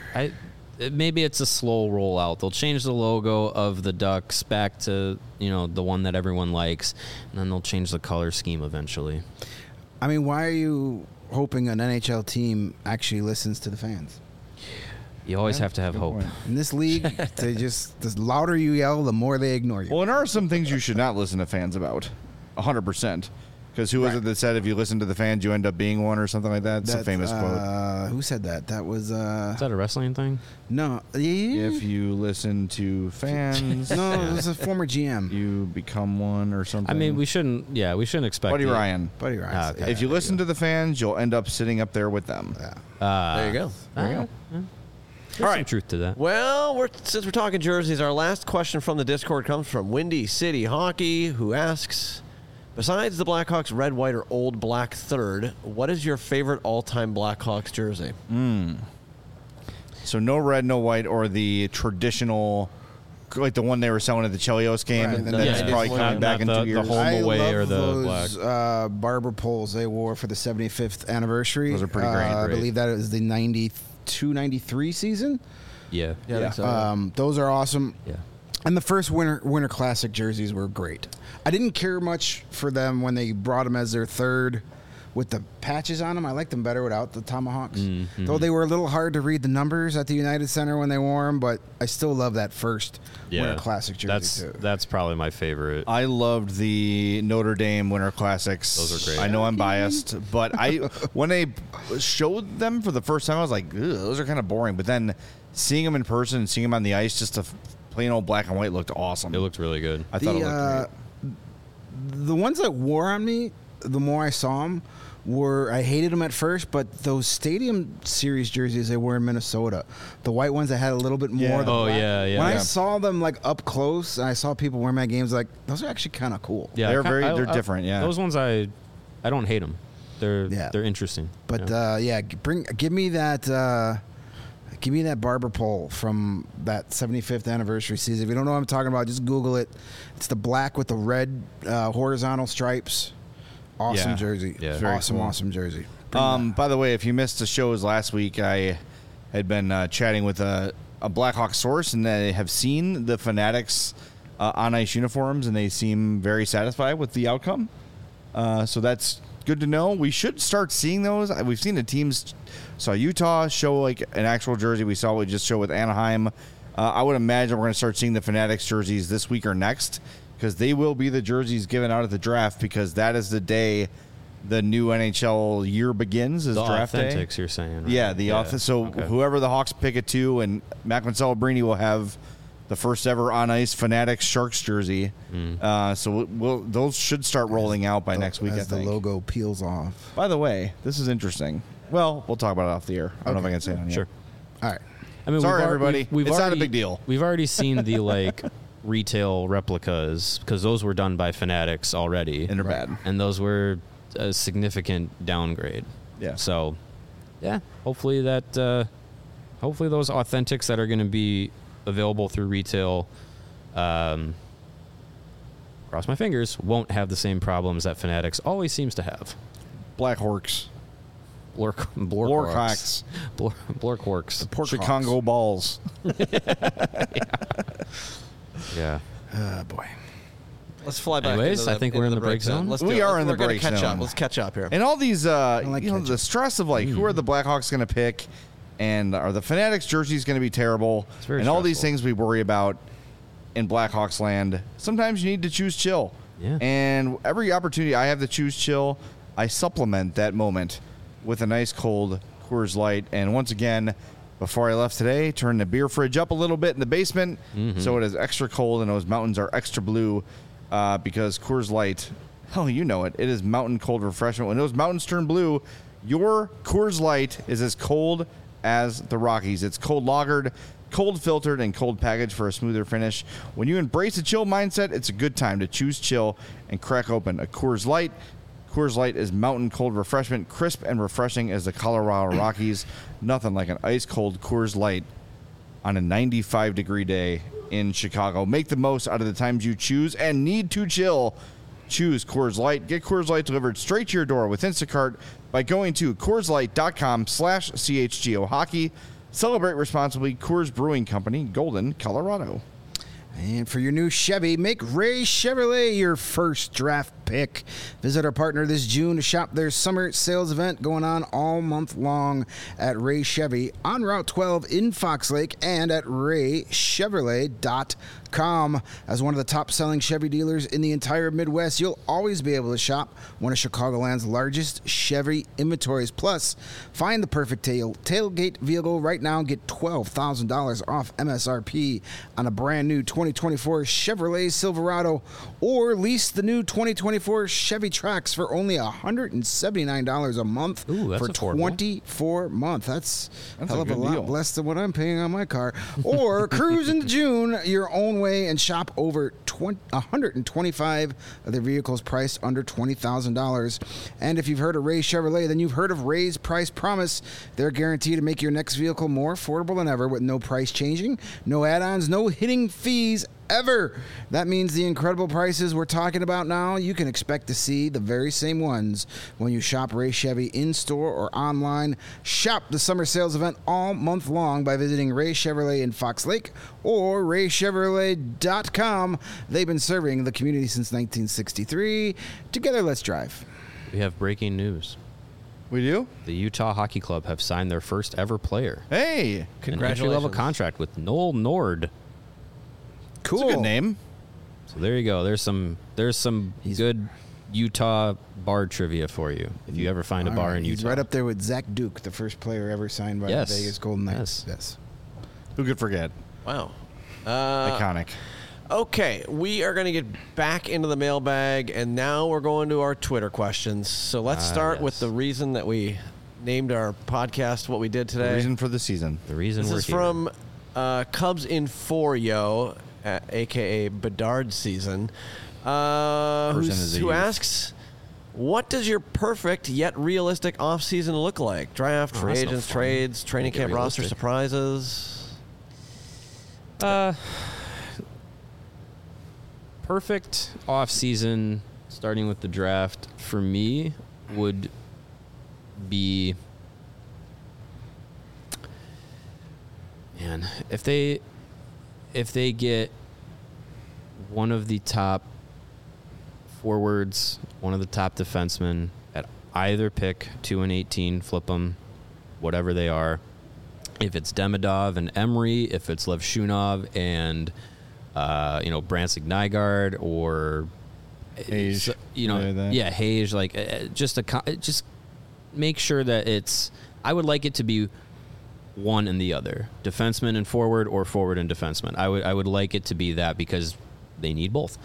maybe it's a slow rollout. They'll change the logo of the Ducks back to, the one that everyone likes, and then they'll change the color scheme eventually. I mean, why are you hoping an NHL team actually listens to the fans? You always have to have hope. point. In this league, the louder you yell, the more they ignore you. Well, and there are some things you should not listen to fans about. 100%. Because who was it that said if you listen to the fans, you end up being one or something like that? It's a famous quote. Who said that? That was Is that a wrestling thing? no. Yeah. If you listen to fans, No, it was a former GM, you become one or something. I mean, we shouldn't expect Buddy it. Ryan. Buddy Ryan. Ah, okay. If you listen to the fans, you'll end up sitting up there with them. There you go. There you go. There's All some right. truth to that. Well, since we're talking jerseys, our last question from the Discord comes from Windy City Hockey, who asks, besides the Blackhawks red, white, or old black third, what is your favorite all-time Blackhawks jersey? So no red, no white, or the traditional, like the one they were selling at the Chelios game, Right, and the then it's 90s probably one. coming back in Not 2 the years. whole- I away love or the those Barber poles they wore for the 75th anniversary. Those are pretty great. I Great. believe that is the 92-93 season. Yeah. I think so. Those are awesome. Yeah. And the first Winter Classic jerseys were great. I didn't care much for them when they brought them as their third with the patches on them. I liked them better without the tomahawks. Mm-hmm. Though they were a little hard to read the numbers at the United Center when they wore them, but I still love that first Winter Classic jersey too. That's probably my favorite. I loved the Notre Dame Winter Classics. Those are great. I know I'm biased, but when they showed them for the first time, I was like, "Ugh, those are kind of boring." But then seeing them in person and seeing them on the ice, just a plain old black and white looked awesome. It looked really good. I thought it looked great. The ones that wore on me, the more I saw them, I hated them at first, but those Stadium Series jerseys they wore in Minnesota, the white ones that had a little bit more. Yeah. of the Oh, black. yeah, yeah. When I Yeah. saw them like up close, and I saw people wearing my games, like those are actually kind of cool. Yeah, They're they're different, yeah. Those ones I don't hate them. They're interesting. But yeah. give me that. Give me that Barber pole from that 75th anniversary season. If you don't know what I'm talking about, just Google it. It's the black with the red horizontal stripes. Awesome Yeah. jersey. Yeah. Very Awesome, cool. awesome jersey. By the way, if you missed the shows last week, I had been chatting with a Blackhawk source, and they have seen the Fanatics on ice uniforms, and they seem very satisfied with the outcome. So that's good to know. We should start seeing those. We've seen the teams. Saw Utah show like an actual jersey. We saw what we just showed with Anaheim. I would imagine we're going to start seeing the Fanatics jerseys this week or next, because they will be the jerseys given out at the draft, because that is the day the new NHL year begins, is The draft day. Authentics, you're saying, right? Yeah, the so Okay. whoever the Hawks pick it to, and Macklin Celebrini will have the first ever on ice Fanatics Sharks jersey. So those should start rolling out by next week. As I think. the logo peels off. By the way, this is interesting. Well, we'll talk about it off the air. I don't know if I can say it on here. Sure. All right. I mean, Sorry, we've al- everybody. We've It's not a already- big deal. We've already seen the retail replicas, because those were done by Fanatics already, And they're bad. and those were a significant downgrade. Yeah. So, yeah, hopefully those Authentics that are going to be available through retail, cross my fingers, won't have the same problems that Fanatics always seems to have. Black Hawks. Blorkhawks. Blorkhawks. Pork Chicago Balls. Yeah. Oh, boy. Let's fly back. Anyways, into I think we're in the break zone. Let's We do it. are in the We're gonna break catch zone. up. Let's catch up here. And all these, like ketchup. the stress of like, who are the Blackhawks going to pick, and are the Fanatics jerseys going to be terrible, very and all these stressful. things we worry about in Blackhawks land. Sometimes you need to choose chill. Yeah. And every opportunity I have to choose chill, I supplement that moment with a nice cold Coors Light. And once again, before I left today, turned the beer fridge up a little bit in the basement, so it is extra cold, and those mountains are extra blue, because Coors Light, hell, you know it. It is mountain cold refreshment. When those mountains turn blue, your Coors Light is as cold as the Rockies. It's cold lagered, cold filtered, and cold packaged for a smoother finish. When you embrace a chill mindset, it's a good time to choose chill and crack open a Coors Light. Coors Light is mountain cold refreshment, crisp and refreshing as the Colorado Rockies. Nothing like an ice cold Coors Light on a 95-degree day in Chicago. Make the most out of the times you choose and need to chill. Choose Coors Light. Get Coors Light delivered straight to your door with Instacart by going to CoorsLight.com/CHGO Hockey. Celebrate responsibly. Coors Brewing Company, Golden, Colorado. And for your new Chevy, make Ray Chevrolet your first draft pick. Visit our partner this June to shop their summer sales event going on all month long at Ray Chevy on Route 12 in Fox Lake and at raychevrolet.com. As one of the top-selling Chevy dealers in the entire Midwest, you'll always be able to shop one of Chicagoland's largest Chevy inventories. Plus, find the perfect tailgate vehicle right now and get $12,000 off MSRP on a brand new 2024 Chevrolet Silverado, or lease the new 2024 Chevy Trax for only $179 a month. Ooh, that's for affordable. 24 months. That's a hell a of a good lot deal. less than what I'm paying on my car. Or cruise into June your own way and shop over 125 of their vehicles priced under $20,000. And if you've heard of Ray Chevrolet, then you've heard of Ray's Price Promise. They're guaranteed to make your next vehicle more affordable than ever with no price changing, no add-ons, no hitting fees ever. That means the incredible prices we're talking about now, you can expect to see the very same ones when you shop Ray Chevy in-store or online. Shop the summer sales event all month long by visiting Ray Chevrolet in Fox Lake or raychevrolet.com. They've been serving the community since 1963. Together, let's drive. We have breaking news. We do? The Utah Hockey Club have signed their first ever player. Hey, An Congratulations. entry-level contract with Noel Nord. Cool. that's a good name. So there you go. There's some good Utah bar trivia for you if you ever find a All bar right, in Utah. He's right up there with Zach Duke, the first player ever signed by Yes. the Vegas Golden Knights. Yes. Who could forget? Wow. Iconic. Okay, we are going to get back into the mailbag, and now we're going to our Twitter questions. So let's start with yes. the reason that we named our podcast what we did The today. reason for the season. The reason This we're is here. from Cubs in 4 Yo, a.k.a. Bedard Season, is a who youth. asks, what does your perfect yet realistic offseason look like? Draft, free that's no agents, fun. trades, training Make it camp roster realistic. surprises? Perfect off season, starting with the draft for me would be, man, if they get one of the top forwards, one of the top defensemen at either pick 2 and 18, flip them, whatever they are. If it's Demidov and Emery, if it's Levshunov and Branson Nygaard or Hage, like that. yeah, Hage, like just make sure that it's. I would like it to be one and the other, defenseman and forward, or forward and defenseman. I would like it to be that because they need both.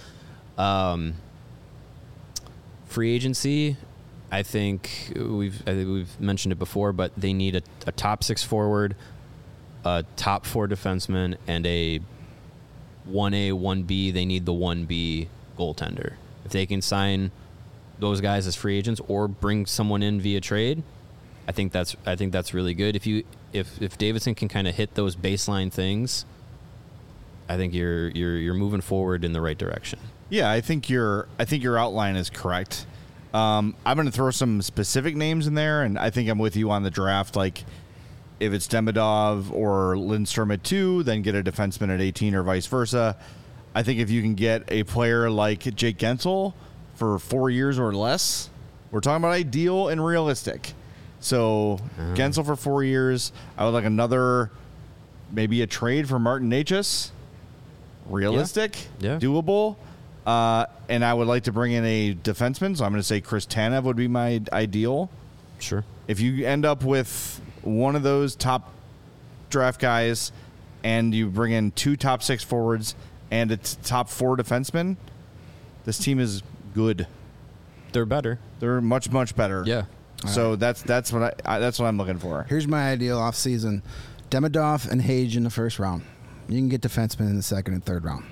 Free agency, I think we've mentioned it before, but they need a top 6 forward, a top 4 defenseman, and a 1A, 1B. They need the 1B goaltender. If they can sign those guys as free agents or bring someone in via trade, I think that's really good. If Davidson can kind of hit those baseline things, I think you're moving forward in the right direction. Yeah, I think your outline is correct. I'm going to throw some specific names in there, and I think I'm with you on the draft. Like, if it's Demidov or Lindstrom at 2, then get a defenseman at 18 or vice versa. I think if you can get a player like Jake Gensel for 4 years or less, we're talking about ideal and realistic. So Gensel for 4 years. I would like another, maybe a trade for Martin Necas. Realistic, Yeah. doable. And I would like to bring in a defenseman, so I'm going to say Chris Tanev would be my ideal. Sure. If you end up with one of those top draft guys and you bring in 2 top 6 forwards and a top 4 defensemen, this team is good. They're better. They're much, much better. Yeah. So that's what that's what I'm looking for. Here's my ideal offseason. Demidov and Hage in the first round. You can get defensemen in the second and third round.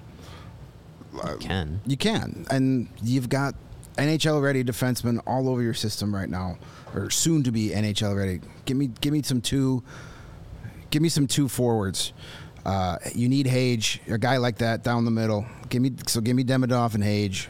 You can. And you've got NHL-ready defensemen all over your system right now, or soon to be NHL-ready. Give me some two forwards. You need Hage, a guy like that down the middle. Give me Demidov and Hage.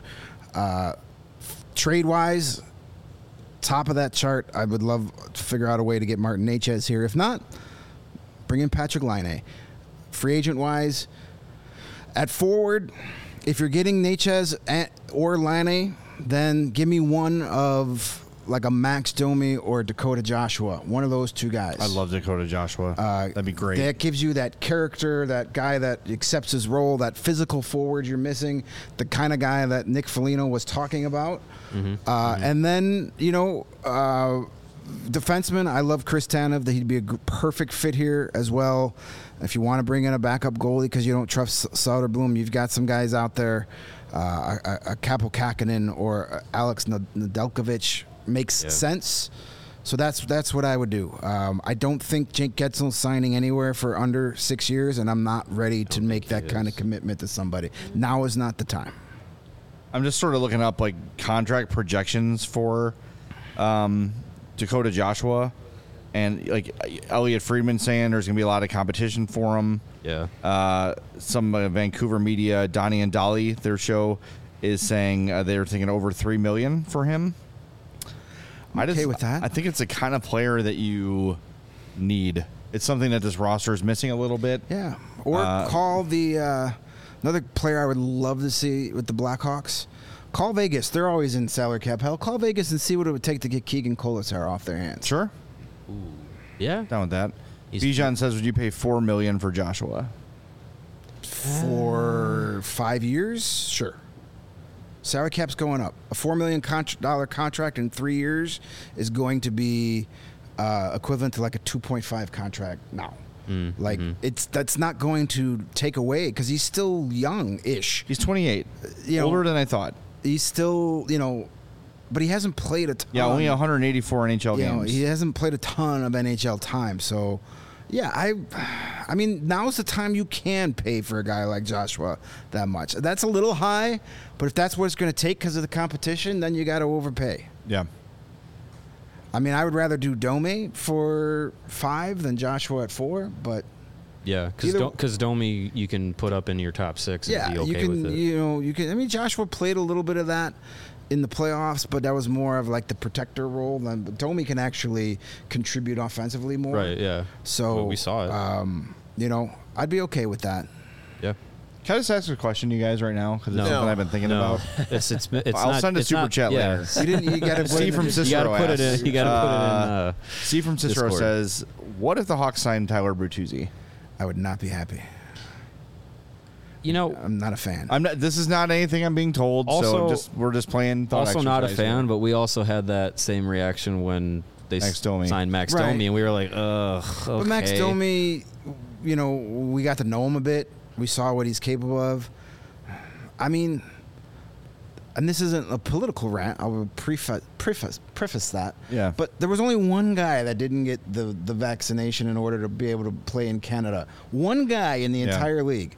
Trade-wise, top of that chart. I would love to figure out a way to get Martin Necas here. If not, bring in Patrick Laine. Free agent-wise, at forward, if you're getting Necas or Laine, then give me one of like a Max Domi or Dakota Joshua. One of those two guys. I love Dakota Joshua. That'd be great. That gives you that character, that guy that accepts his role, that physical forward you're missing, the kind of guy that Nick Foligno was talking about. And then, defenseman, I love Chris Tanev. He'd be a perfect fit here as well. If you want to bring in a backup goalie because you don't trust Soderblom, you've got some guys out there. A Kaapo Kähkönen or Alex Nedeljkovic makes sense. So that's what I would do. I don't think Jake Getzel's signing anywhere for under 6 years, and I'm not ready to make that kind of commitment to somebody. Now is not the time. I'm just sort of looking up like contract projections for Dakota Joshua, and like Elliot Friedman saying there's going to be a lot of competition for him. Yeah. Some Vancouver media, Donnie and Dolly, their show, is saying they're thinking over $3 million for him. I'm okay with that. I think it's the kind of player that you need. It's something that this roster is missing a little bit. Yeah. Or call the another player I would love to see with the Blackhawks. Call Vegas. They're always in salary cap hell. Call Vegas and see what it would take to get Keegan Colasar off their hands. Sure. Yeah. Down with that. Bijan says, would you pay $4 million for Joshua? For 5 years? Sure. Salary cap's going up. A $4 million contract in 3 years is going to be equivalent to like a 2.5 contract now. That's not going to take away because he's still young-ish. He's 28. Older than I thought. He's still, but he hasn't played a ton. Yeah, only 184 NHL games. He hasn't played a ton of NHL time. So, yeah, I mean, now's the time you can pay for a guy like Joshua that much. That's a little high, but if that's what it's going to take because of the competition, then you got to overpay. Yeah. I mean, I would rather do Domi for 5 than Joshua at 4, but yeah, because Domi you can put up in your top 6 and be okay with it. You can. I mean, Joshua played a little bit of that in the playoffs, but that was more of like the protector role. Domi can actually contribute offensively more. Right. Yeah. So we saw it. I'd be okay with that. Yeah. Can I just ask a question, you guys, right now? Because it's something I've been thinking about. It's I'll send a super chat later. You got to Steve from Cicero put it in. You got to put it in. Steve from Cicero Discord. says, "What if the Hawks signed Tyler Bertuzzi?" I would not be happy. I'm not a fan. I'm not. This is not anything I'm being told. Also, so we're just playing. Also, not a fan, but we also had that same reaction when they signed Max Domi, and we were like, ugh. Okay. But Max Domi, we got to know him a bit. We saw what he's capable of. I mean, and this isn't a political rant. I will preface that. Yeah. But there was only one guy that didn't get the vaccination in order to be able to play in Canada. One guy in the entire league.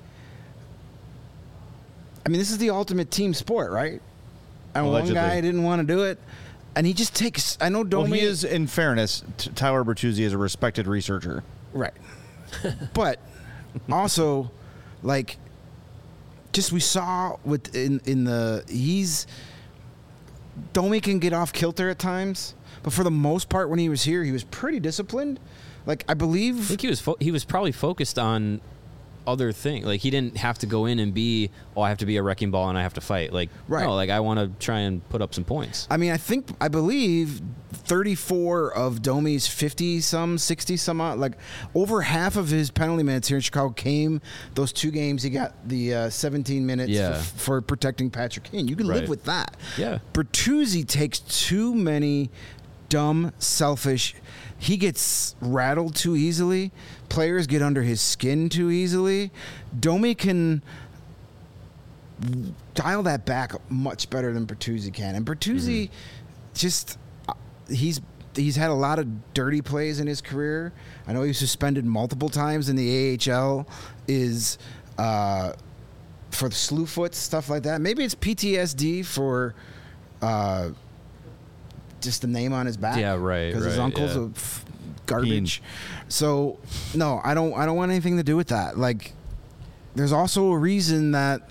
I mean, this is the ultimate team sport, right? And Allegedly. one guy didn't want to do it. And he just takes... I know Domi... Well, he is, in fairness, Tyler Bertuzzi is a respected researcher. Right. But also... Like, just we saw Domi can get off kilter at times, but for the most part, when he was here, he was pretty disciplined. Like, I think he was probably focused on other things. Like, he didn't have to go in and be, I have to be a wrecking ball and I have to fight. Like, right. No, like I want to try and put up some points. I mean, I believe 34 of Domi's 50-some, 60-some odd, like over half of his penalty minutes here in Chicago came those 2 games. He got the 17 minutes for protecting Patrick Kane. You can live with that. Yeah. Bertuzzi takes too many dumb, selfish. He gets rattled too easily. Players get under his skin too easily. Domi can dial that back much better than Bertuzzi can. And Bertuzzi just he's had a lot of dirty plays in his career. I know he was suspended multiple times in the AHL for the slew foot, stuff like that. Maybe it's PTSD for just the name on his back. Yeah, right. Because his uncle's a garbage. So no, I don't want anything to do with that. Like, there's also a reason that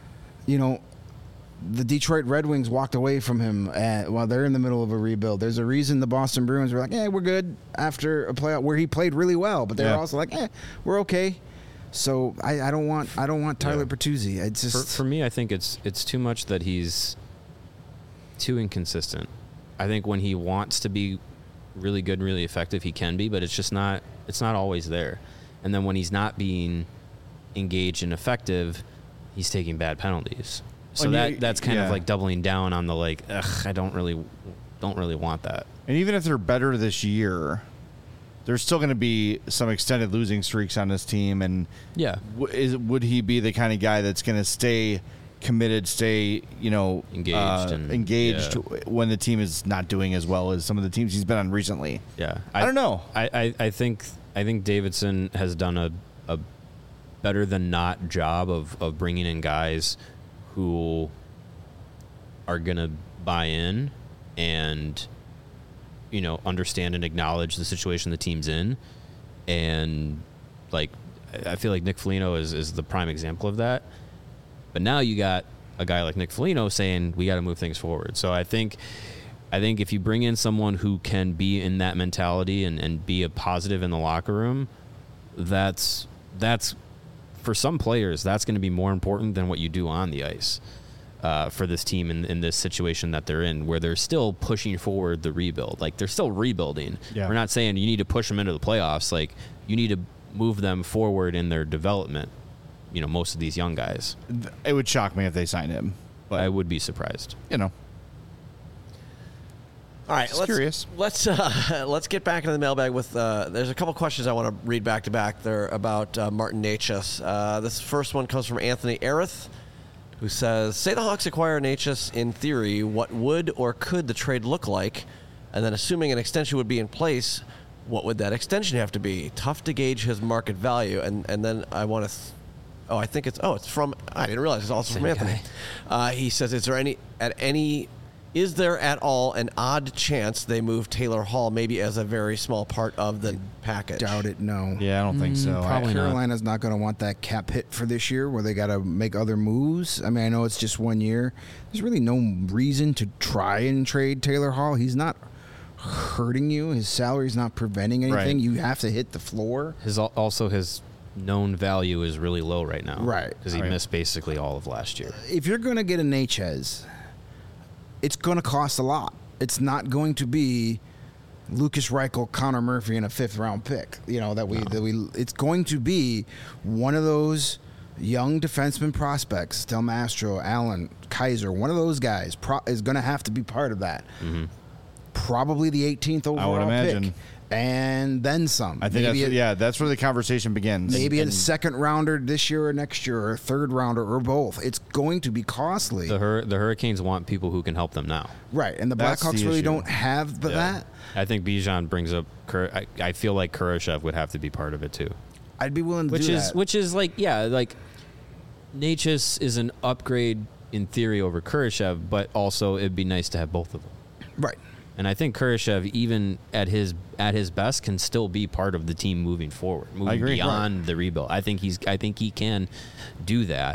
the Detroit Red Wings walked away from him while they're in the middle of a rebuild. There's a reason the Boston Bruins were like, we're good after a playoff where he played really well, but they're also like, we're okay. So I don't want Tyler Bertuzzi. It's just for me, I think it's too much that he's too inconsistent. I think when he wants to be really good and really effective, he can be, but it's not always there. And then when he's not being engaged and effective, he's taking bad penalties. So that's kind of like doubling down on the like, I don't really want that. And even if they're better this year, there's still going to be some extended losing streaks on this team. And would he be the kind of guy that's going to stay committed, engaged when the team is not doing as well as some of the teams he's been on recently? Yeah, I don't know. I think Davidson has done a better than not job of bringing in guys who are going to buy in and understand and acknowledge the situation the team's in. And like, I feel like Nick Foligno is the prime example of that. But now you got a guy like Nick Foligno saying we got to move things forward. So I think if you bring in someone who can be in that mentality and be a positive in the locker room, that's for some players, that's going to be more important than what you do on the ice for this team in this situation that they're in, where they're still pushing forward the rebuild. Like, they're still rebuilding. Yeah. We're not saying you need to push them into the playoffs. Like, you need to move them forward in their development. Most of these young guys. It would shock me if they signed him. But I would be surprised. All right, curious. Let's get back into the mailbag with. There's a couple questions I want to read back to back. They're about Martin Necas. This first one comes from Anthony Arith, who says, "Say the Hawks acquire Necas. In theory, what would or could the trade look like? And then, assuming an extension would be in place, what would that extension have to be? Tough to gauge his market value." And then I want to. I think it's from. I didn't realize it's also from Anthony. He says, "Is there at all an odd chance they move Taylor Hall maybe as a very small part of the package?" Doubt it. No. Yeah, I don't think so. Probably Carolina's not going to want that cap hit for this year, where they got to make other moves. I mean, I know it's just 1 year. There's really no reason to try and trade Taylor Hall. He's not hurting you. His salary's not preventing anything. Right. You have to hit the floor. His known value is really low right now. Right. Because he missed basically all of last year. If you're going to get a Necas, it's going to cost a lot. It's not going to be Lucas Reichel, Connor Murphy, and a 5th-round pick. It's going to be one of those young defenseman prospects, Del Mastro, Allen, Kaiser. One of those guys is going to have to be part of that. Mm-hmm. Probably the 18th overall pick. And then some. I think that's where the conversation begins. Maybe a second rounder this year or next year, or a third rounder, or both. It's going to be costly. The Hurricanes want people who can help them now. Right, and the Blackhawks really don't have that. I think Bijan brings up. I feel like Kurashev would have to be part of it too. I'd be willing to do that. Which is like Necas is an upgrade in theory over Kurashev, but also it'd be nice to have both of them. Right. And I think Kurashev, even at his best, can still be part of the team moving forward, moving beyond the rebuild. I think he can do that.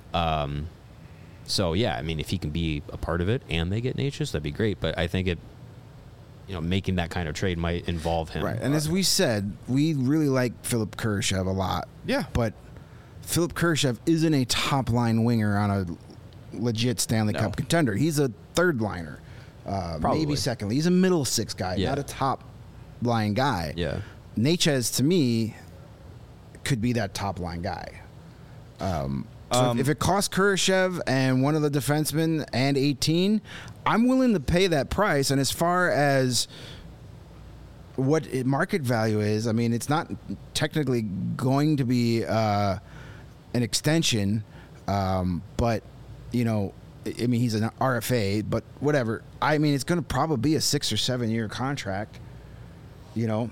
So yeah, I mean, if he can be a part of it and they get Necas, that'd be great. But I think making that kind of trade might involve him. Right. And as we said, we really like Philip Kurashev a lot. Yeah. But Philip Kurashev isn't a top line winger on a legit Stanley Cup contender. He's a third liner. Maybe second. He's a middle six guy, not a top line guy. Yeah. Necas, to me, could be that top line guy. If it costs Kurashev and one of the defensemen and 18, I'm willing to pay that price. And as far as what market value is, I mean, it's not technically going to be an extension, but, I mean, he's an RFA, but whatever. I mean, it's going to probably be a 6 or 7 year contract. Yeah.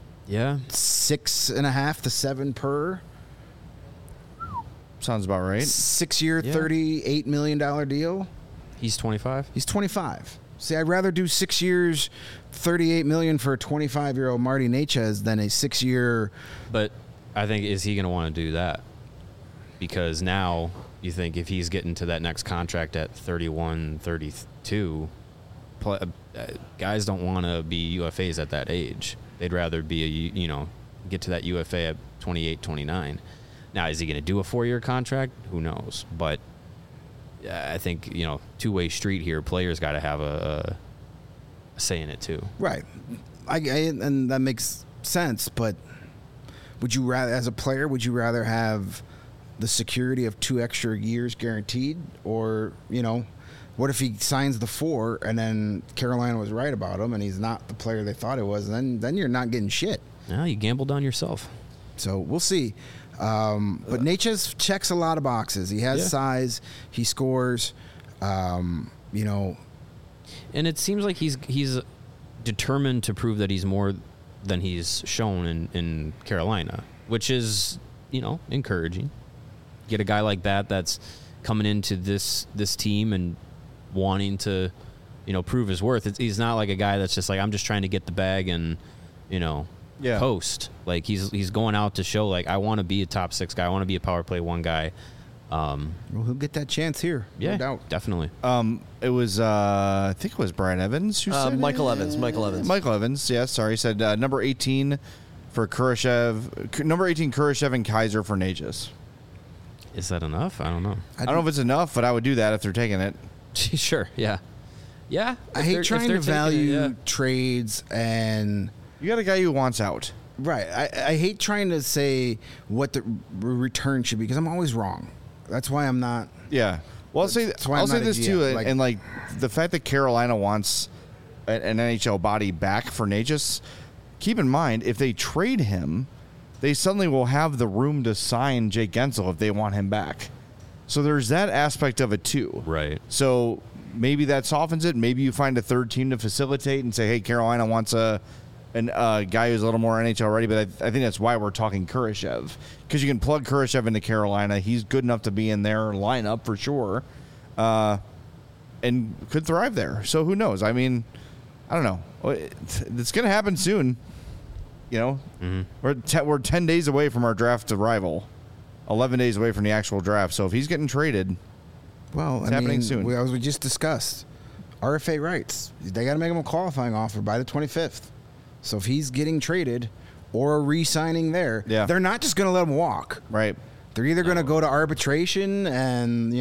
6.5 to 7 per. Sounds about right. 6 year, $38 million deal. He's 25. He's 25. See, I'd rather do 6 years, $38 million for a 25-year-old Marty Necas than a 6 year. But I think, is he going to want to do that? Because now you think if he's getting to that next contract at 31, 32, guys don't want to be UFAs at that age. They'd rather be get to that UFA at 28, 29. Now, is he going to do a 4-year contract? Who knows? But I think, two-way street here. Players got to have a say in it too. Right. And that makes sense, but would you rather, as a player, would you rather have the security of 2 extra years guaranteed, or, what if he signs the 4 and then Carolina was right about him and he's not the player they thought he was? Then you're not getting shit. No, you gambled on yourself. So we'll see. But Necas checks a lot of boxes. He has size. He scores. And it seems like he's determined to prove that he's more than he's shown in Carolina, which is, encouraging. Get a guy like that's coming into this team and wanting to, prove his worth. He's not like a guy that's just like, I'm just trying to get the bag and, post. Like he's going out to show, like, I want to be a top 6 guy. I want to be a power play 1 guy. Well, he'll get that chance here. Yeah, no doubt. Definitely. It was I think it was Brad Evans who said Michael it. Evans. Michael Evans. Yeah, sorry. He said number 18 for Kurashev, number 18 Kurashev and Kaiser for Necas. Is that enough? I don't know. I don't know if it's enough, but I would do that if they're taking it. Sure. Yeah. Yeah. I hate trying to value trades, and You got a guy who wants out. right. I hate trying to say what the return should be, because I'm always wrong. That's why I'm not. Yeah. Well, I'll say this too, GM. and like the fact that Carolina wants an NHL body back for Necas. Keep in mind, if they trade him, they suddenly will have the room to sign Jake Gensel if they want him back. So there's that aspect of it too. Right. So maybe that softens it. Maybe you find a third team to facilitate and say, hey, Carolina wants a guy who's a little more NHL ready. But I think that's why we're talking Kurashev, because you can plug Kurashev into Carolina. He's good enough to be in their lineup for sure, and could thrive there. So who knows? I mean, I don't know. It's going to happen soon. We're 10 days away from our draft arrival, 11 days away from the actual draft. So if he's getting traded, Well, it's happening soon. As we just discussed, RFA rights. They got to make him a qualifying offer by the 25th. So if he's getting traded or re-signing there, they're not just going to let him walk. Right. They're either going to go to arbitration and,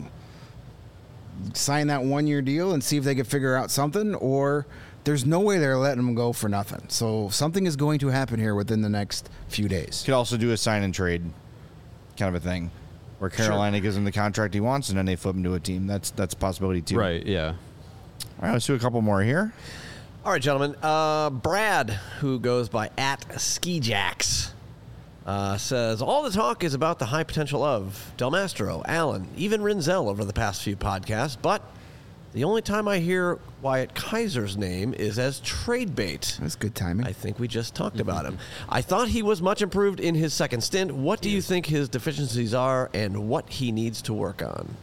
sign that 1-year deal and see if they can figure out something, or there's no way they're letting him go for nothing. So something is going to happen here within the next few days. Could also do a sign and trade kind of a thing, where Carolina gives him the contract he wants and then they flip him to a team. That's a possibility too. Right. Yeah. All right, let's do a couple more here. All right, gentlemen. Brad, who goes by @SkiJax, says, all the talk is about the high potential of Del Mastro, Allen, even Rinzel over the past few podcasts, but the only time I hear Wyatt Kaiser's name is as trade bait. That's good timing. I think we just talked about him. I thought he was much improved in his second stint. What do you think his deficiencies are and what he needs to work on?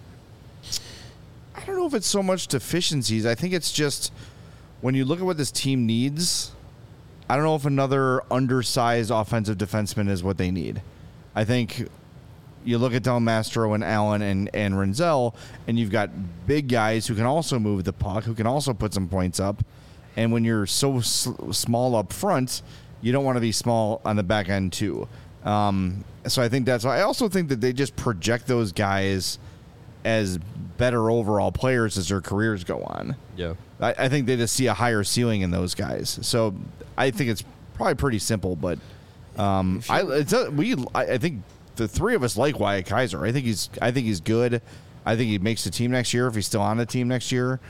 I don't know if it's so much deficiencies. I think it's just when you look at what this team needs, I don't know if another undersized offensive defenseman is what they need. I think you look at Del Mastro and Allen and Rinzel, and you've got big guys who can also move the puck, who can also put some points up. And when you're so small up front, you don't want to be small on the back end too. So I think that's why. I also think that they just project those guys as better overall players as their careers go on. Yeah. I think they just see a higher ceiling in those guys. So I think it's probably pretty simple, but I think the three of us like Wyatt Kaiser. I think he's good. I think he makes the team next year if he's still on the team next year.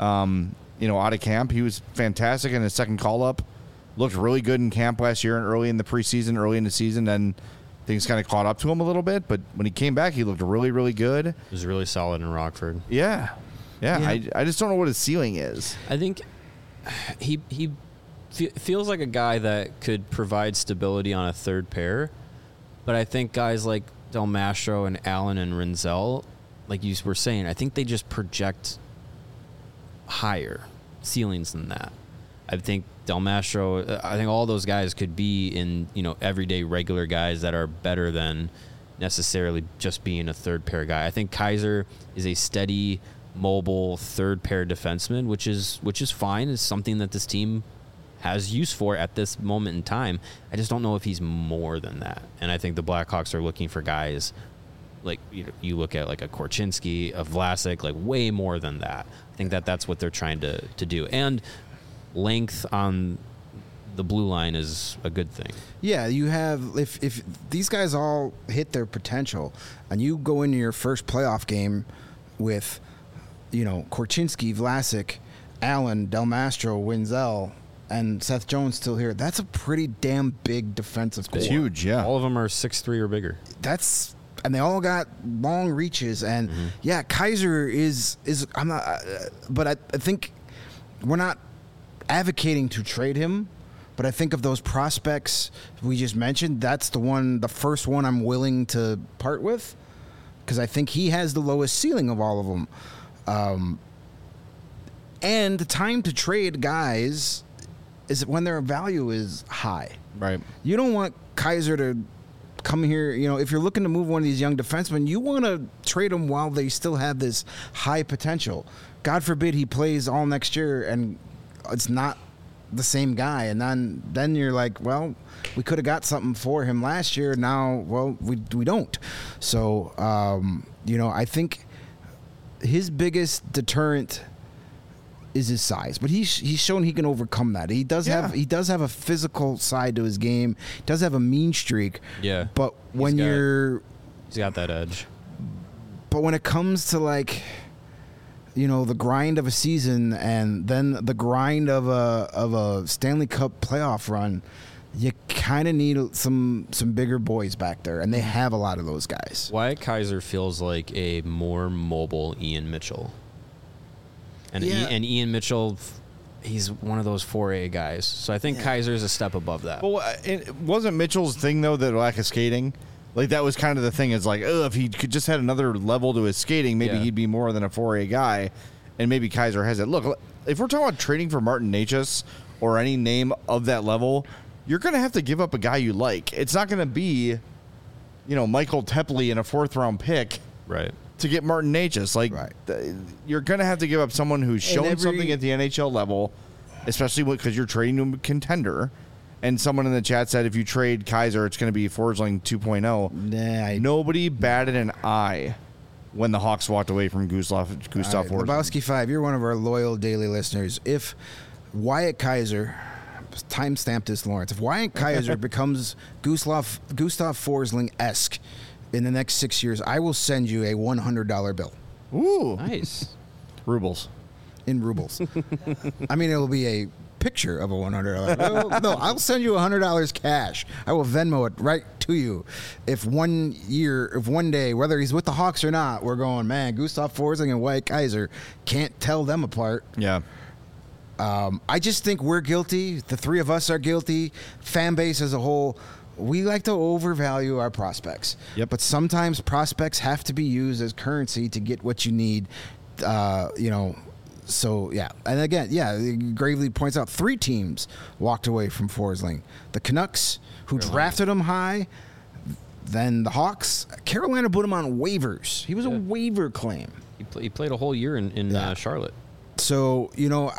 Out of camp, he was fantastic in his second call up. Looked really good in camp last year and early in the preseason, early in the season. Then things kind of caught up to him a little bit. But when he came back, he looked really, really good. He was really solid in Rockford. Yeah. I just don't know what his ceiling is. I think he feels like a guy that could provide stability on a third pair. But I think guys like Del Mastro and Allen and Rinzel, like you were saying, I think they just project higher ceilings than that. I think Del Mastro, I think all those guys could be in, everyday regular guys that are better than necessarily just being a third pair guy. I think Kaiser is a steady, mobile third pair defenseman, which is fine. It's something that this team has use for at this moment in time. I just don't know if he's more than that. And I think the Blackhawks are looking for guys like you look at like a Korchinski, a Vlasic, like way more than that. I think that's what they're trying to do. And length on the blue line is a good thing. Yeah, you have if these guys all hit their potential, and you go into your first playoff game with, Korchinski, Vlasic, Allen, Del Mastro, Winzel, and Seth Jones still here. That's a pretty damn big defensive core. It's huge, yeah. All of them are 6'3" or bigger. And they all got long reaches, and yeah, Kaiser is I'm not, but I think we're not advocating to trade him. But I think of those prospects we just mentioned, that's the first one I'm willing to part with, because I think he has the lowest ceiling of all of them. And the time to trade guys is when their value is high. Right. You don't want Kaiser to come here. If you're looking to move one of these young defensemen, you want to trade them while they still have this high potential. God forbid he plays all next year and it's not the same guy, and then you're like, well, we could have got something for him last year. Now, well, we don't. So, I think his biggest deterrent is his size, but he's shown he can overcome that. He does have a physical side to his game. He does have a mean streak. Yeah, but he's got that edge. But when it comes to like, the grind of a season and then the grind of a Stanley Cup playoff run, you kind of need some bigger boys back there, and they have a lot of those guys. Wyatt Kaiser feels like a more mobile Ian Mitchell. And Ian Mitchell, he's one of those 4A guys. So I think Kaiser's a step above that. Well, it wasn't Mitchell's thing, though, that lack of skating? Like, that was kind of the thing. It's like, if he could just had another level to his skating, maybe he'd be more than a 4A guy, and maybe Kaiser has it. Look, if we're talking about trading for Martin Necas or any name of that level, you're going to have to give up a guy you like. It's not going to be, Michael Tepley in a 4th-round pick. Right. To get Martin Necas. Like, you're going to have to give up someone who's shown something at the NHL level, especially because you're trading to a contender. And someone in the chat said if you trade Kaiser, it's going to be Forsling 2.0. Nobody batted an eye when the Hawks walked away from Gustav Forsling. Lebowski 5, you're one of our loyal daily listeners. If Wyatt Kaiser, timestamp this, Lawrence, if Wyatt Kaiser becomes Gustav Forsling-esque in the next 6 years, I will send you a $100 bill. Ooh. Nice. Rubles. In rubles. I mean, it will be a picture of a $100 bill. No, I'll send you $100 cash. I will Venmo it right to you. If one day, whether he's with the Hawks or not, we're going, man, Gustav Forsling and Wyatt Kaiser, can't tell them apart. Yeah. I just think we're guilty. The three of us are guilty. Fan base as a whole, we like to overvalue our prospects. Yep. But sometimes prospects have to be used as currency to get what you need. So, yeah. And again, Gravely points out 3 teams walked away from Forsling. The Canucks, who drafted him high, then the Hawks. Carolina put him on waivers. He was a waiver claim. He played a whole year in Charlotte. So,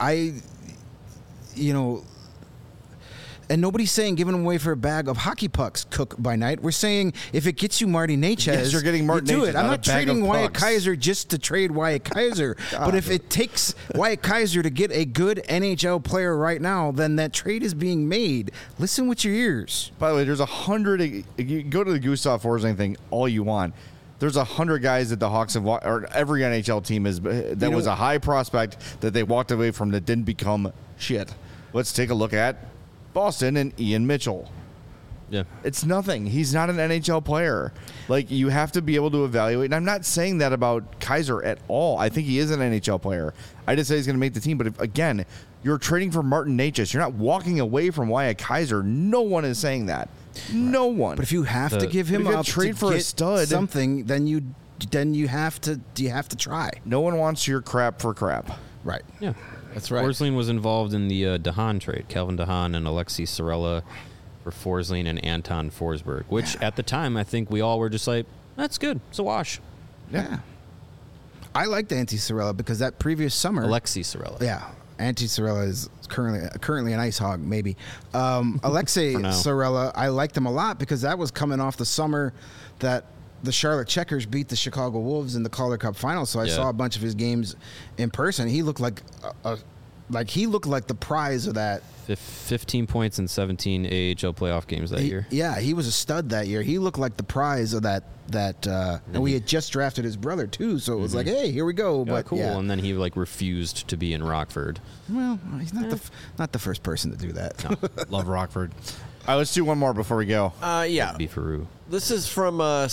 and nobody's saying giving him away for a bag of hockey pucks, cook by night. We're saying if it gets you Marty Necas, yes, you're getting Martin do Necas, it. I'm not trading Wyatt pucks. Kaiser just to trade Wyatt Kaiser. But if it takes Wyatt Kaiser to get a good NHL player right now, then that trade is being made. Listen with your ears. By the way, there's 100. You go to the Gustav Forsling thing all you want. There's 100 guys that the Hawks have, or every NHL team is that was a high prospect that they walked away from that didn't become shit. Let's take a look at Boston and Ian Mitchell. Yeah. It's nothing. He's not an NHL player. Like, you have to be able to evaluate. And I'm not saying that about Kaiser at all. I think he is an NHL player. I just say he's going to make the team. But again, you're trading for Martin Necas. You're not walking away from Wyatt Kaiser. No one is saying that. No one. But if you have to give him up trade to for get a stud, something, then you have to try. No one wants your crap for crap. Right. Yeah. That's right. Forsling was involved in the DeHaan trade. Calvin DeHaan and Alexei Sorella for Forsling and Anton Forsberg, which at the time I think we all were just like, that's good. It's a wash. Yeah. I liked Antti Sorella because that previous summer, Alexei Sorella. Yeah. Antti Sorella is currently an ice hog, maybe. Alexei Sorella, I liked him a lot because that was coming off the summer that the Charlotte Checkers beat the Chicago Wolves in the Calder Cup final, so I Yeah. saw a bunch of his games in person. He looked like he looked like the prize of that. 15 points in 17 AHL playoff games that year. Yeah, he was a stud that year. He looked like the prize of that. And we had just drafted his brother too, so it was like, hey, here we go. Yeah, But cool. yeah. And then he like refused to be in Rockford. Well, he's not the first person to do that. Love Rockford. All right, let's do one more before we go. Yeah. Beefaroo. This is from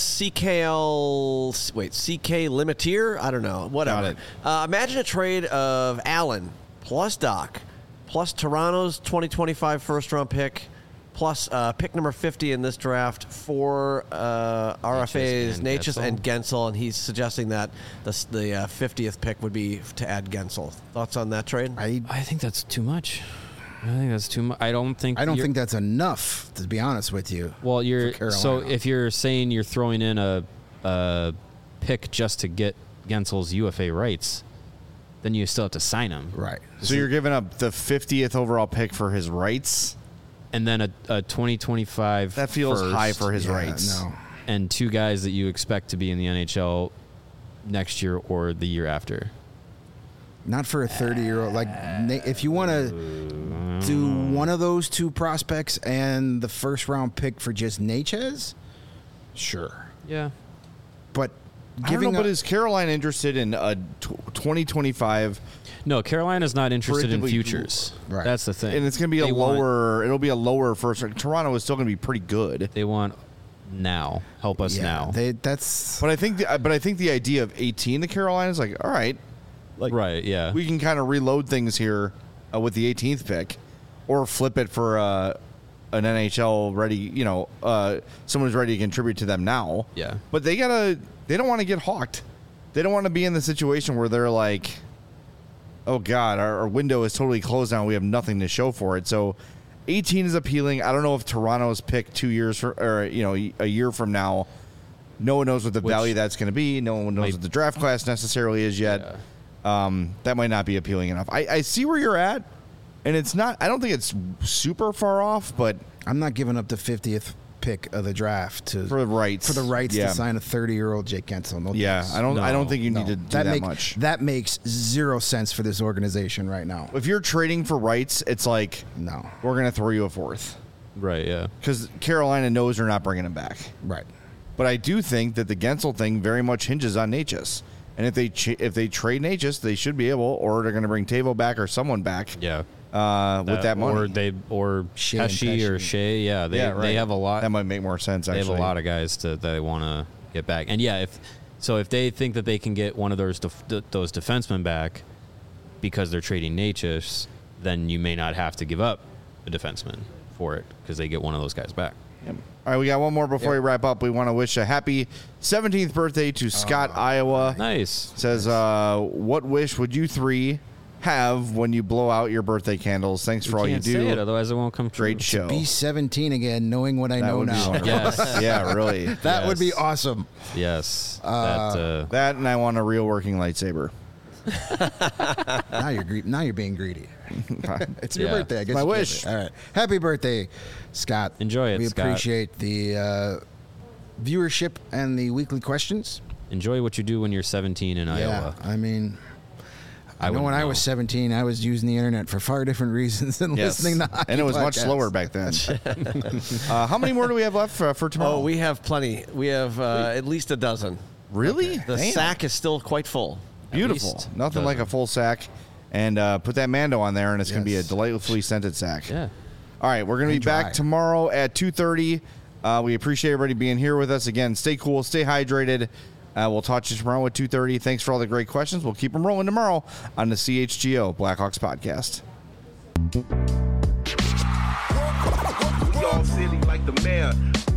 CKL. Wait, CK Limitier? I don't know. Whatever. Imagine a trade of Allen plus Doc plus Toronto's 2025 first-round pick plus pick number 50 in this draft for RFA's Natchez and Gensel, and he's suggesting that the 50th pick would be to add Gensel. Thoughts on that trade? I think that's too much. I think that's too much. I don't think that's enough, to be honest with you. Well, for so Carolina. if you're saying you're throwing in a pick just to get Gensel's UFA rights, then you still have to sign him. Right. So you're giving up the 50th overall pick for his rights? And then a 2025 That feels first high for his Yeah, rights. No. and two guys that you expect to be in the NHL next year or the year after. Not for a 30-year-old. Like, if you want to do one of those two prospects and the first-round pick for just Natchez, sure. Yeah. But I don't know, but is Carolina interested in a 2025? No, Carolina's not interested in Predictably- futures. Right. That's the thing. And it's going to be They want- it'll be a lower first. Toronto is still going to be pretty good. They want now. Help us now. That's But I think the idea of 18 to Carolina is like, all right, like right, yeah. we can kind of reload things here with the 18th pick, or flip it for an NHL ready, someone who's ready to contribute to them now. Yeah. But they don't want to get hawked. They don't want to be in the situation where they're like, oh God, our window is totally closed now. We have nothing to show for it. So 18 is appealing. I don't know if Toronto's pick 2 years or a year from now. No one knows what the value that's going to be. No one knows what the draft class necessarily is yet. That might not be appealing enough. I see where you're at, and it's not. I don't think it's super far off, but I'm not giving up the 50th pick of the draft for the rights to sign a 30-year-old Jake Gensel. No thanks. I don't think you need to do that much. That makes zero sense for this organization right now. If you're trading for rights, it's like, No. we're going to throw you a fourth Right, yeah. because Carolina knows they're not bringing him back. Right. But I do think that the Gensel thing very much hinges on Natchez. And if they trade Natchez, they should be able, or they're going to bring Tavo back or someone back. Yeah. With that money, or Shea and Pesci or Pesci. Shea, yeah, they right. have a lot. That might make more sense. They Actually, have a lot of guys that they want to get back, and yeah, if they think that they can get one of those defensemen back because they're trading Natchez, then you may not have to give up a defenseman for it because they get one of those guys back. All right, we got one more before we wrap up. We want to wish a happy 17th birthday to Scott, Iowa. Nice. Says, what wish would you three have when you blow out your birthday candles? Thanks for all you Can't do. say it, otherwise it won't come true. Great show. Be 17 again, knowing what I know would be now. wonderful. Yes. Yeah, really. That would be Yes. awesome. Yes. That, and I want a real working lightsaber. Now you're being greedy. It's your Yeah. birthday. I guess My you get wish. it. All right. Happy birthday, Scott. Enjoy it, We Scott. appreciate the viewership and the weekly questions. Enjoy what you do when you're 17 in Iowa. I mean, I know wouldn't when I know. was 17, I was using the internet for far different reasons than listening to hockey and it was much podcasts. slower back then. How many more do we have left for tomorrow? Oh, we have plenty. We have at least a dozen. really? The Damn. sack is still quite full. Beautiful. least Nothing like a full sack. And put that Mando on there, and it's going to be a Yes. delightfully scented sack. Yeah. All right, we're going to be And back dry. tomorrow at 2:30. We appreciate everybody being here with us. Again, stay cool, stay hydrated. We'll talk to you tomorrow at 2:30. Thanks for all the great questions. We'll keep them rolling tomorrow on the CHGO Blackhawks podcast. We all silly like the mayor.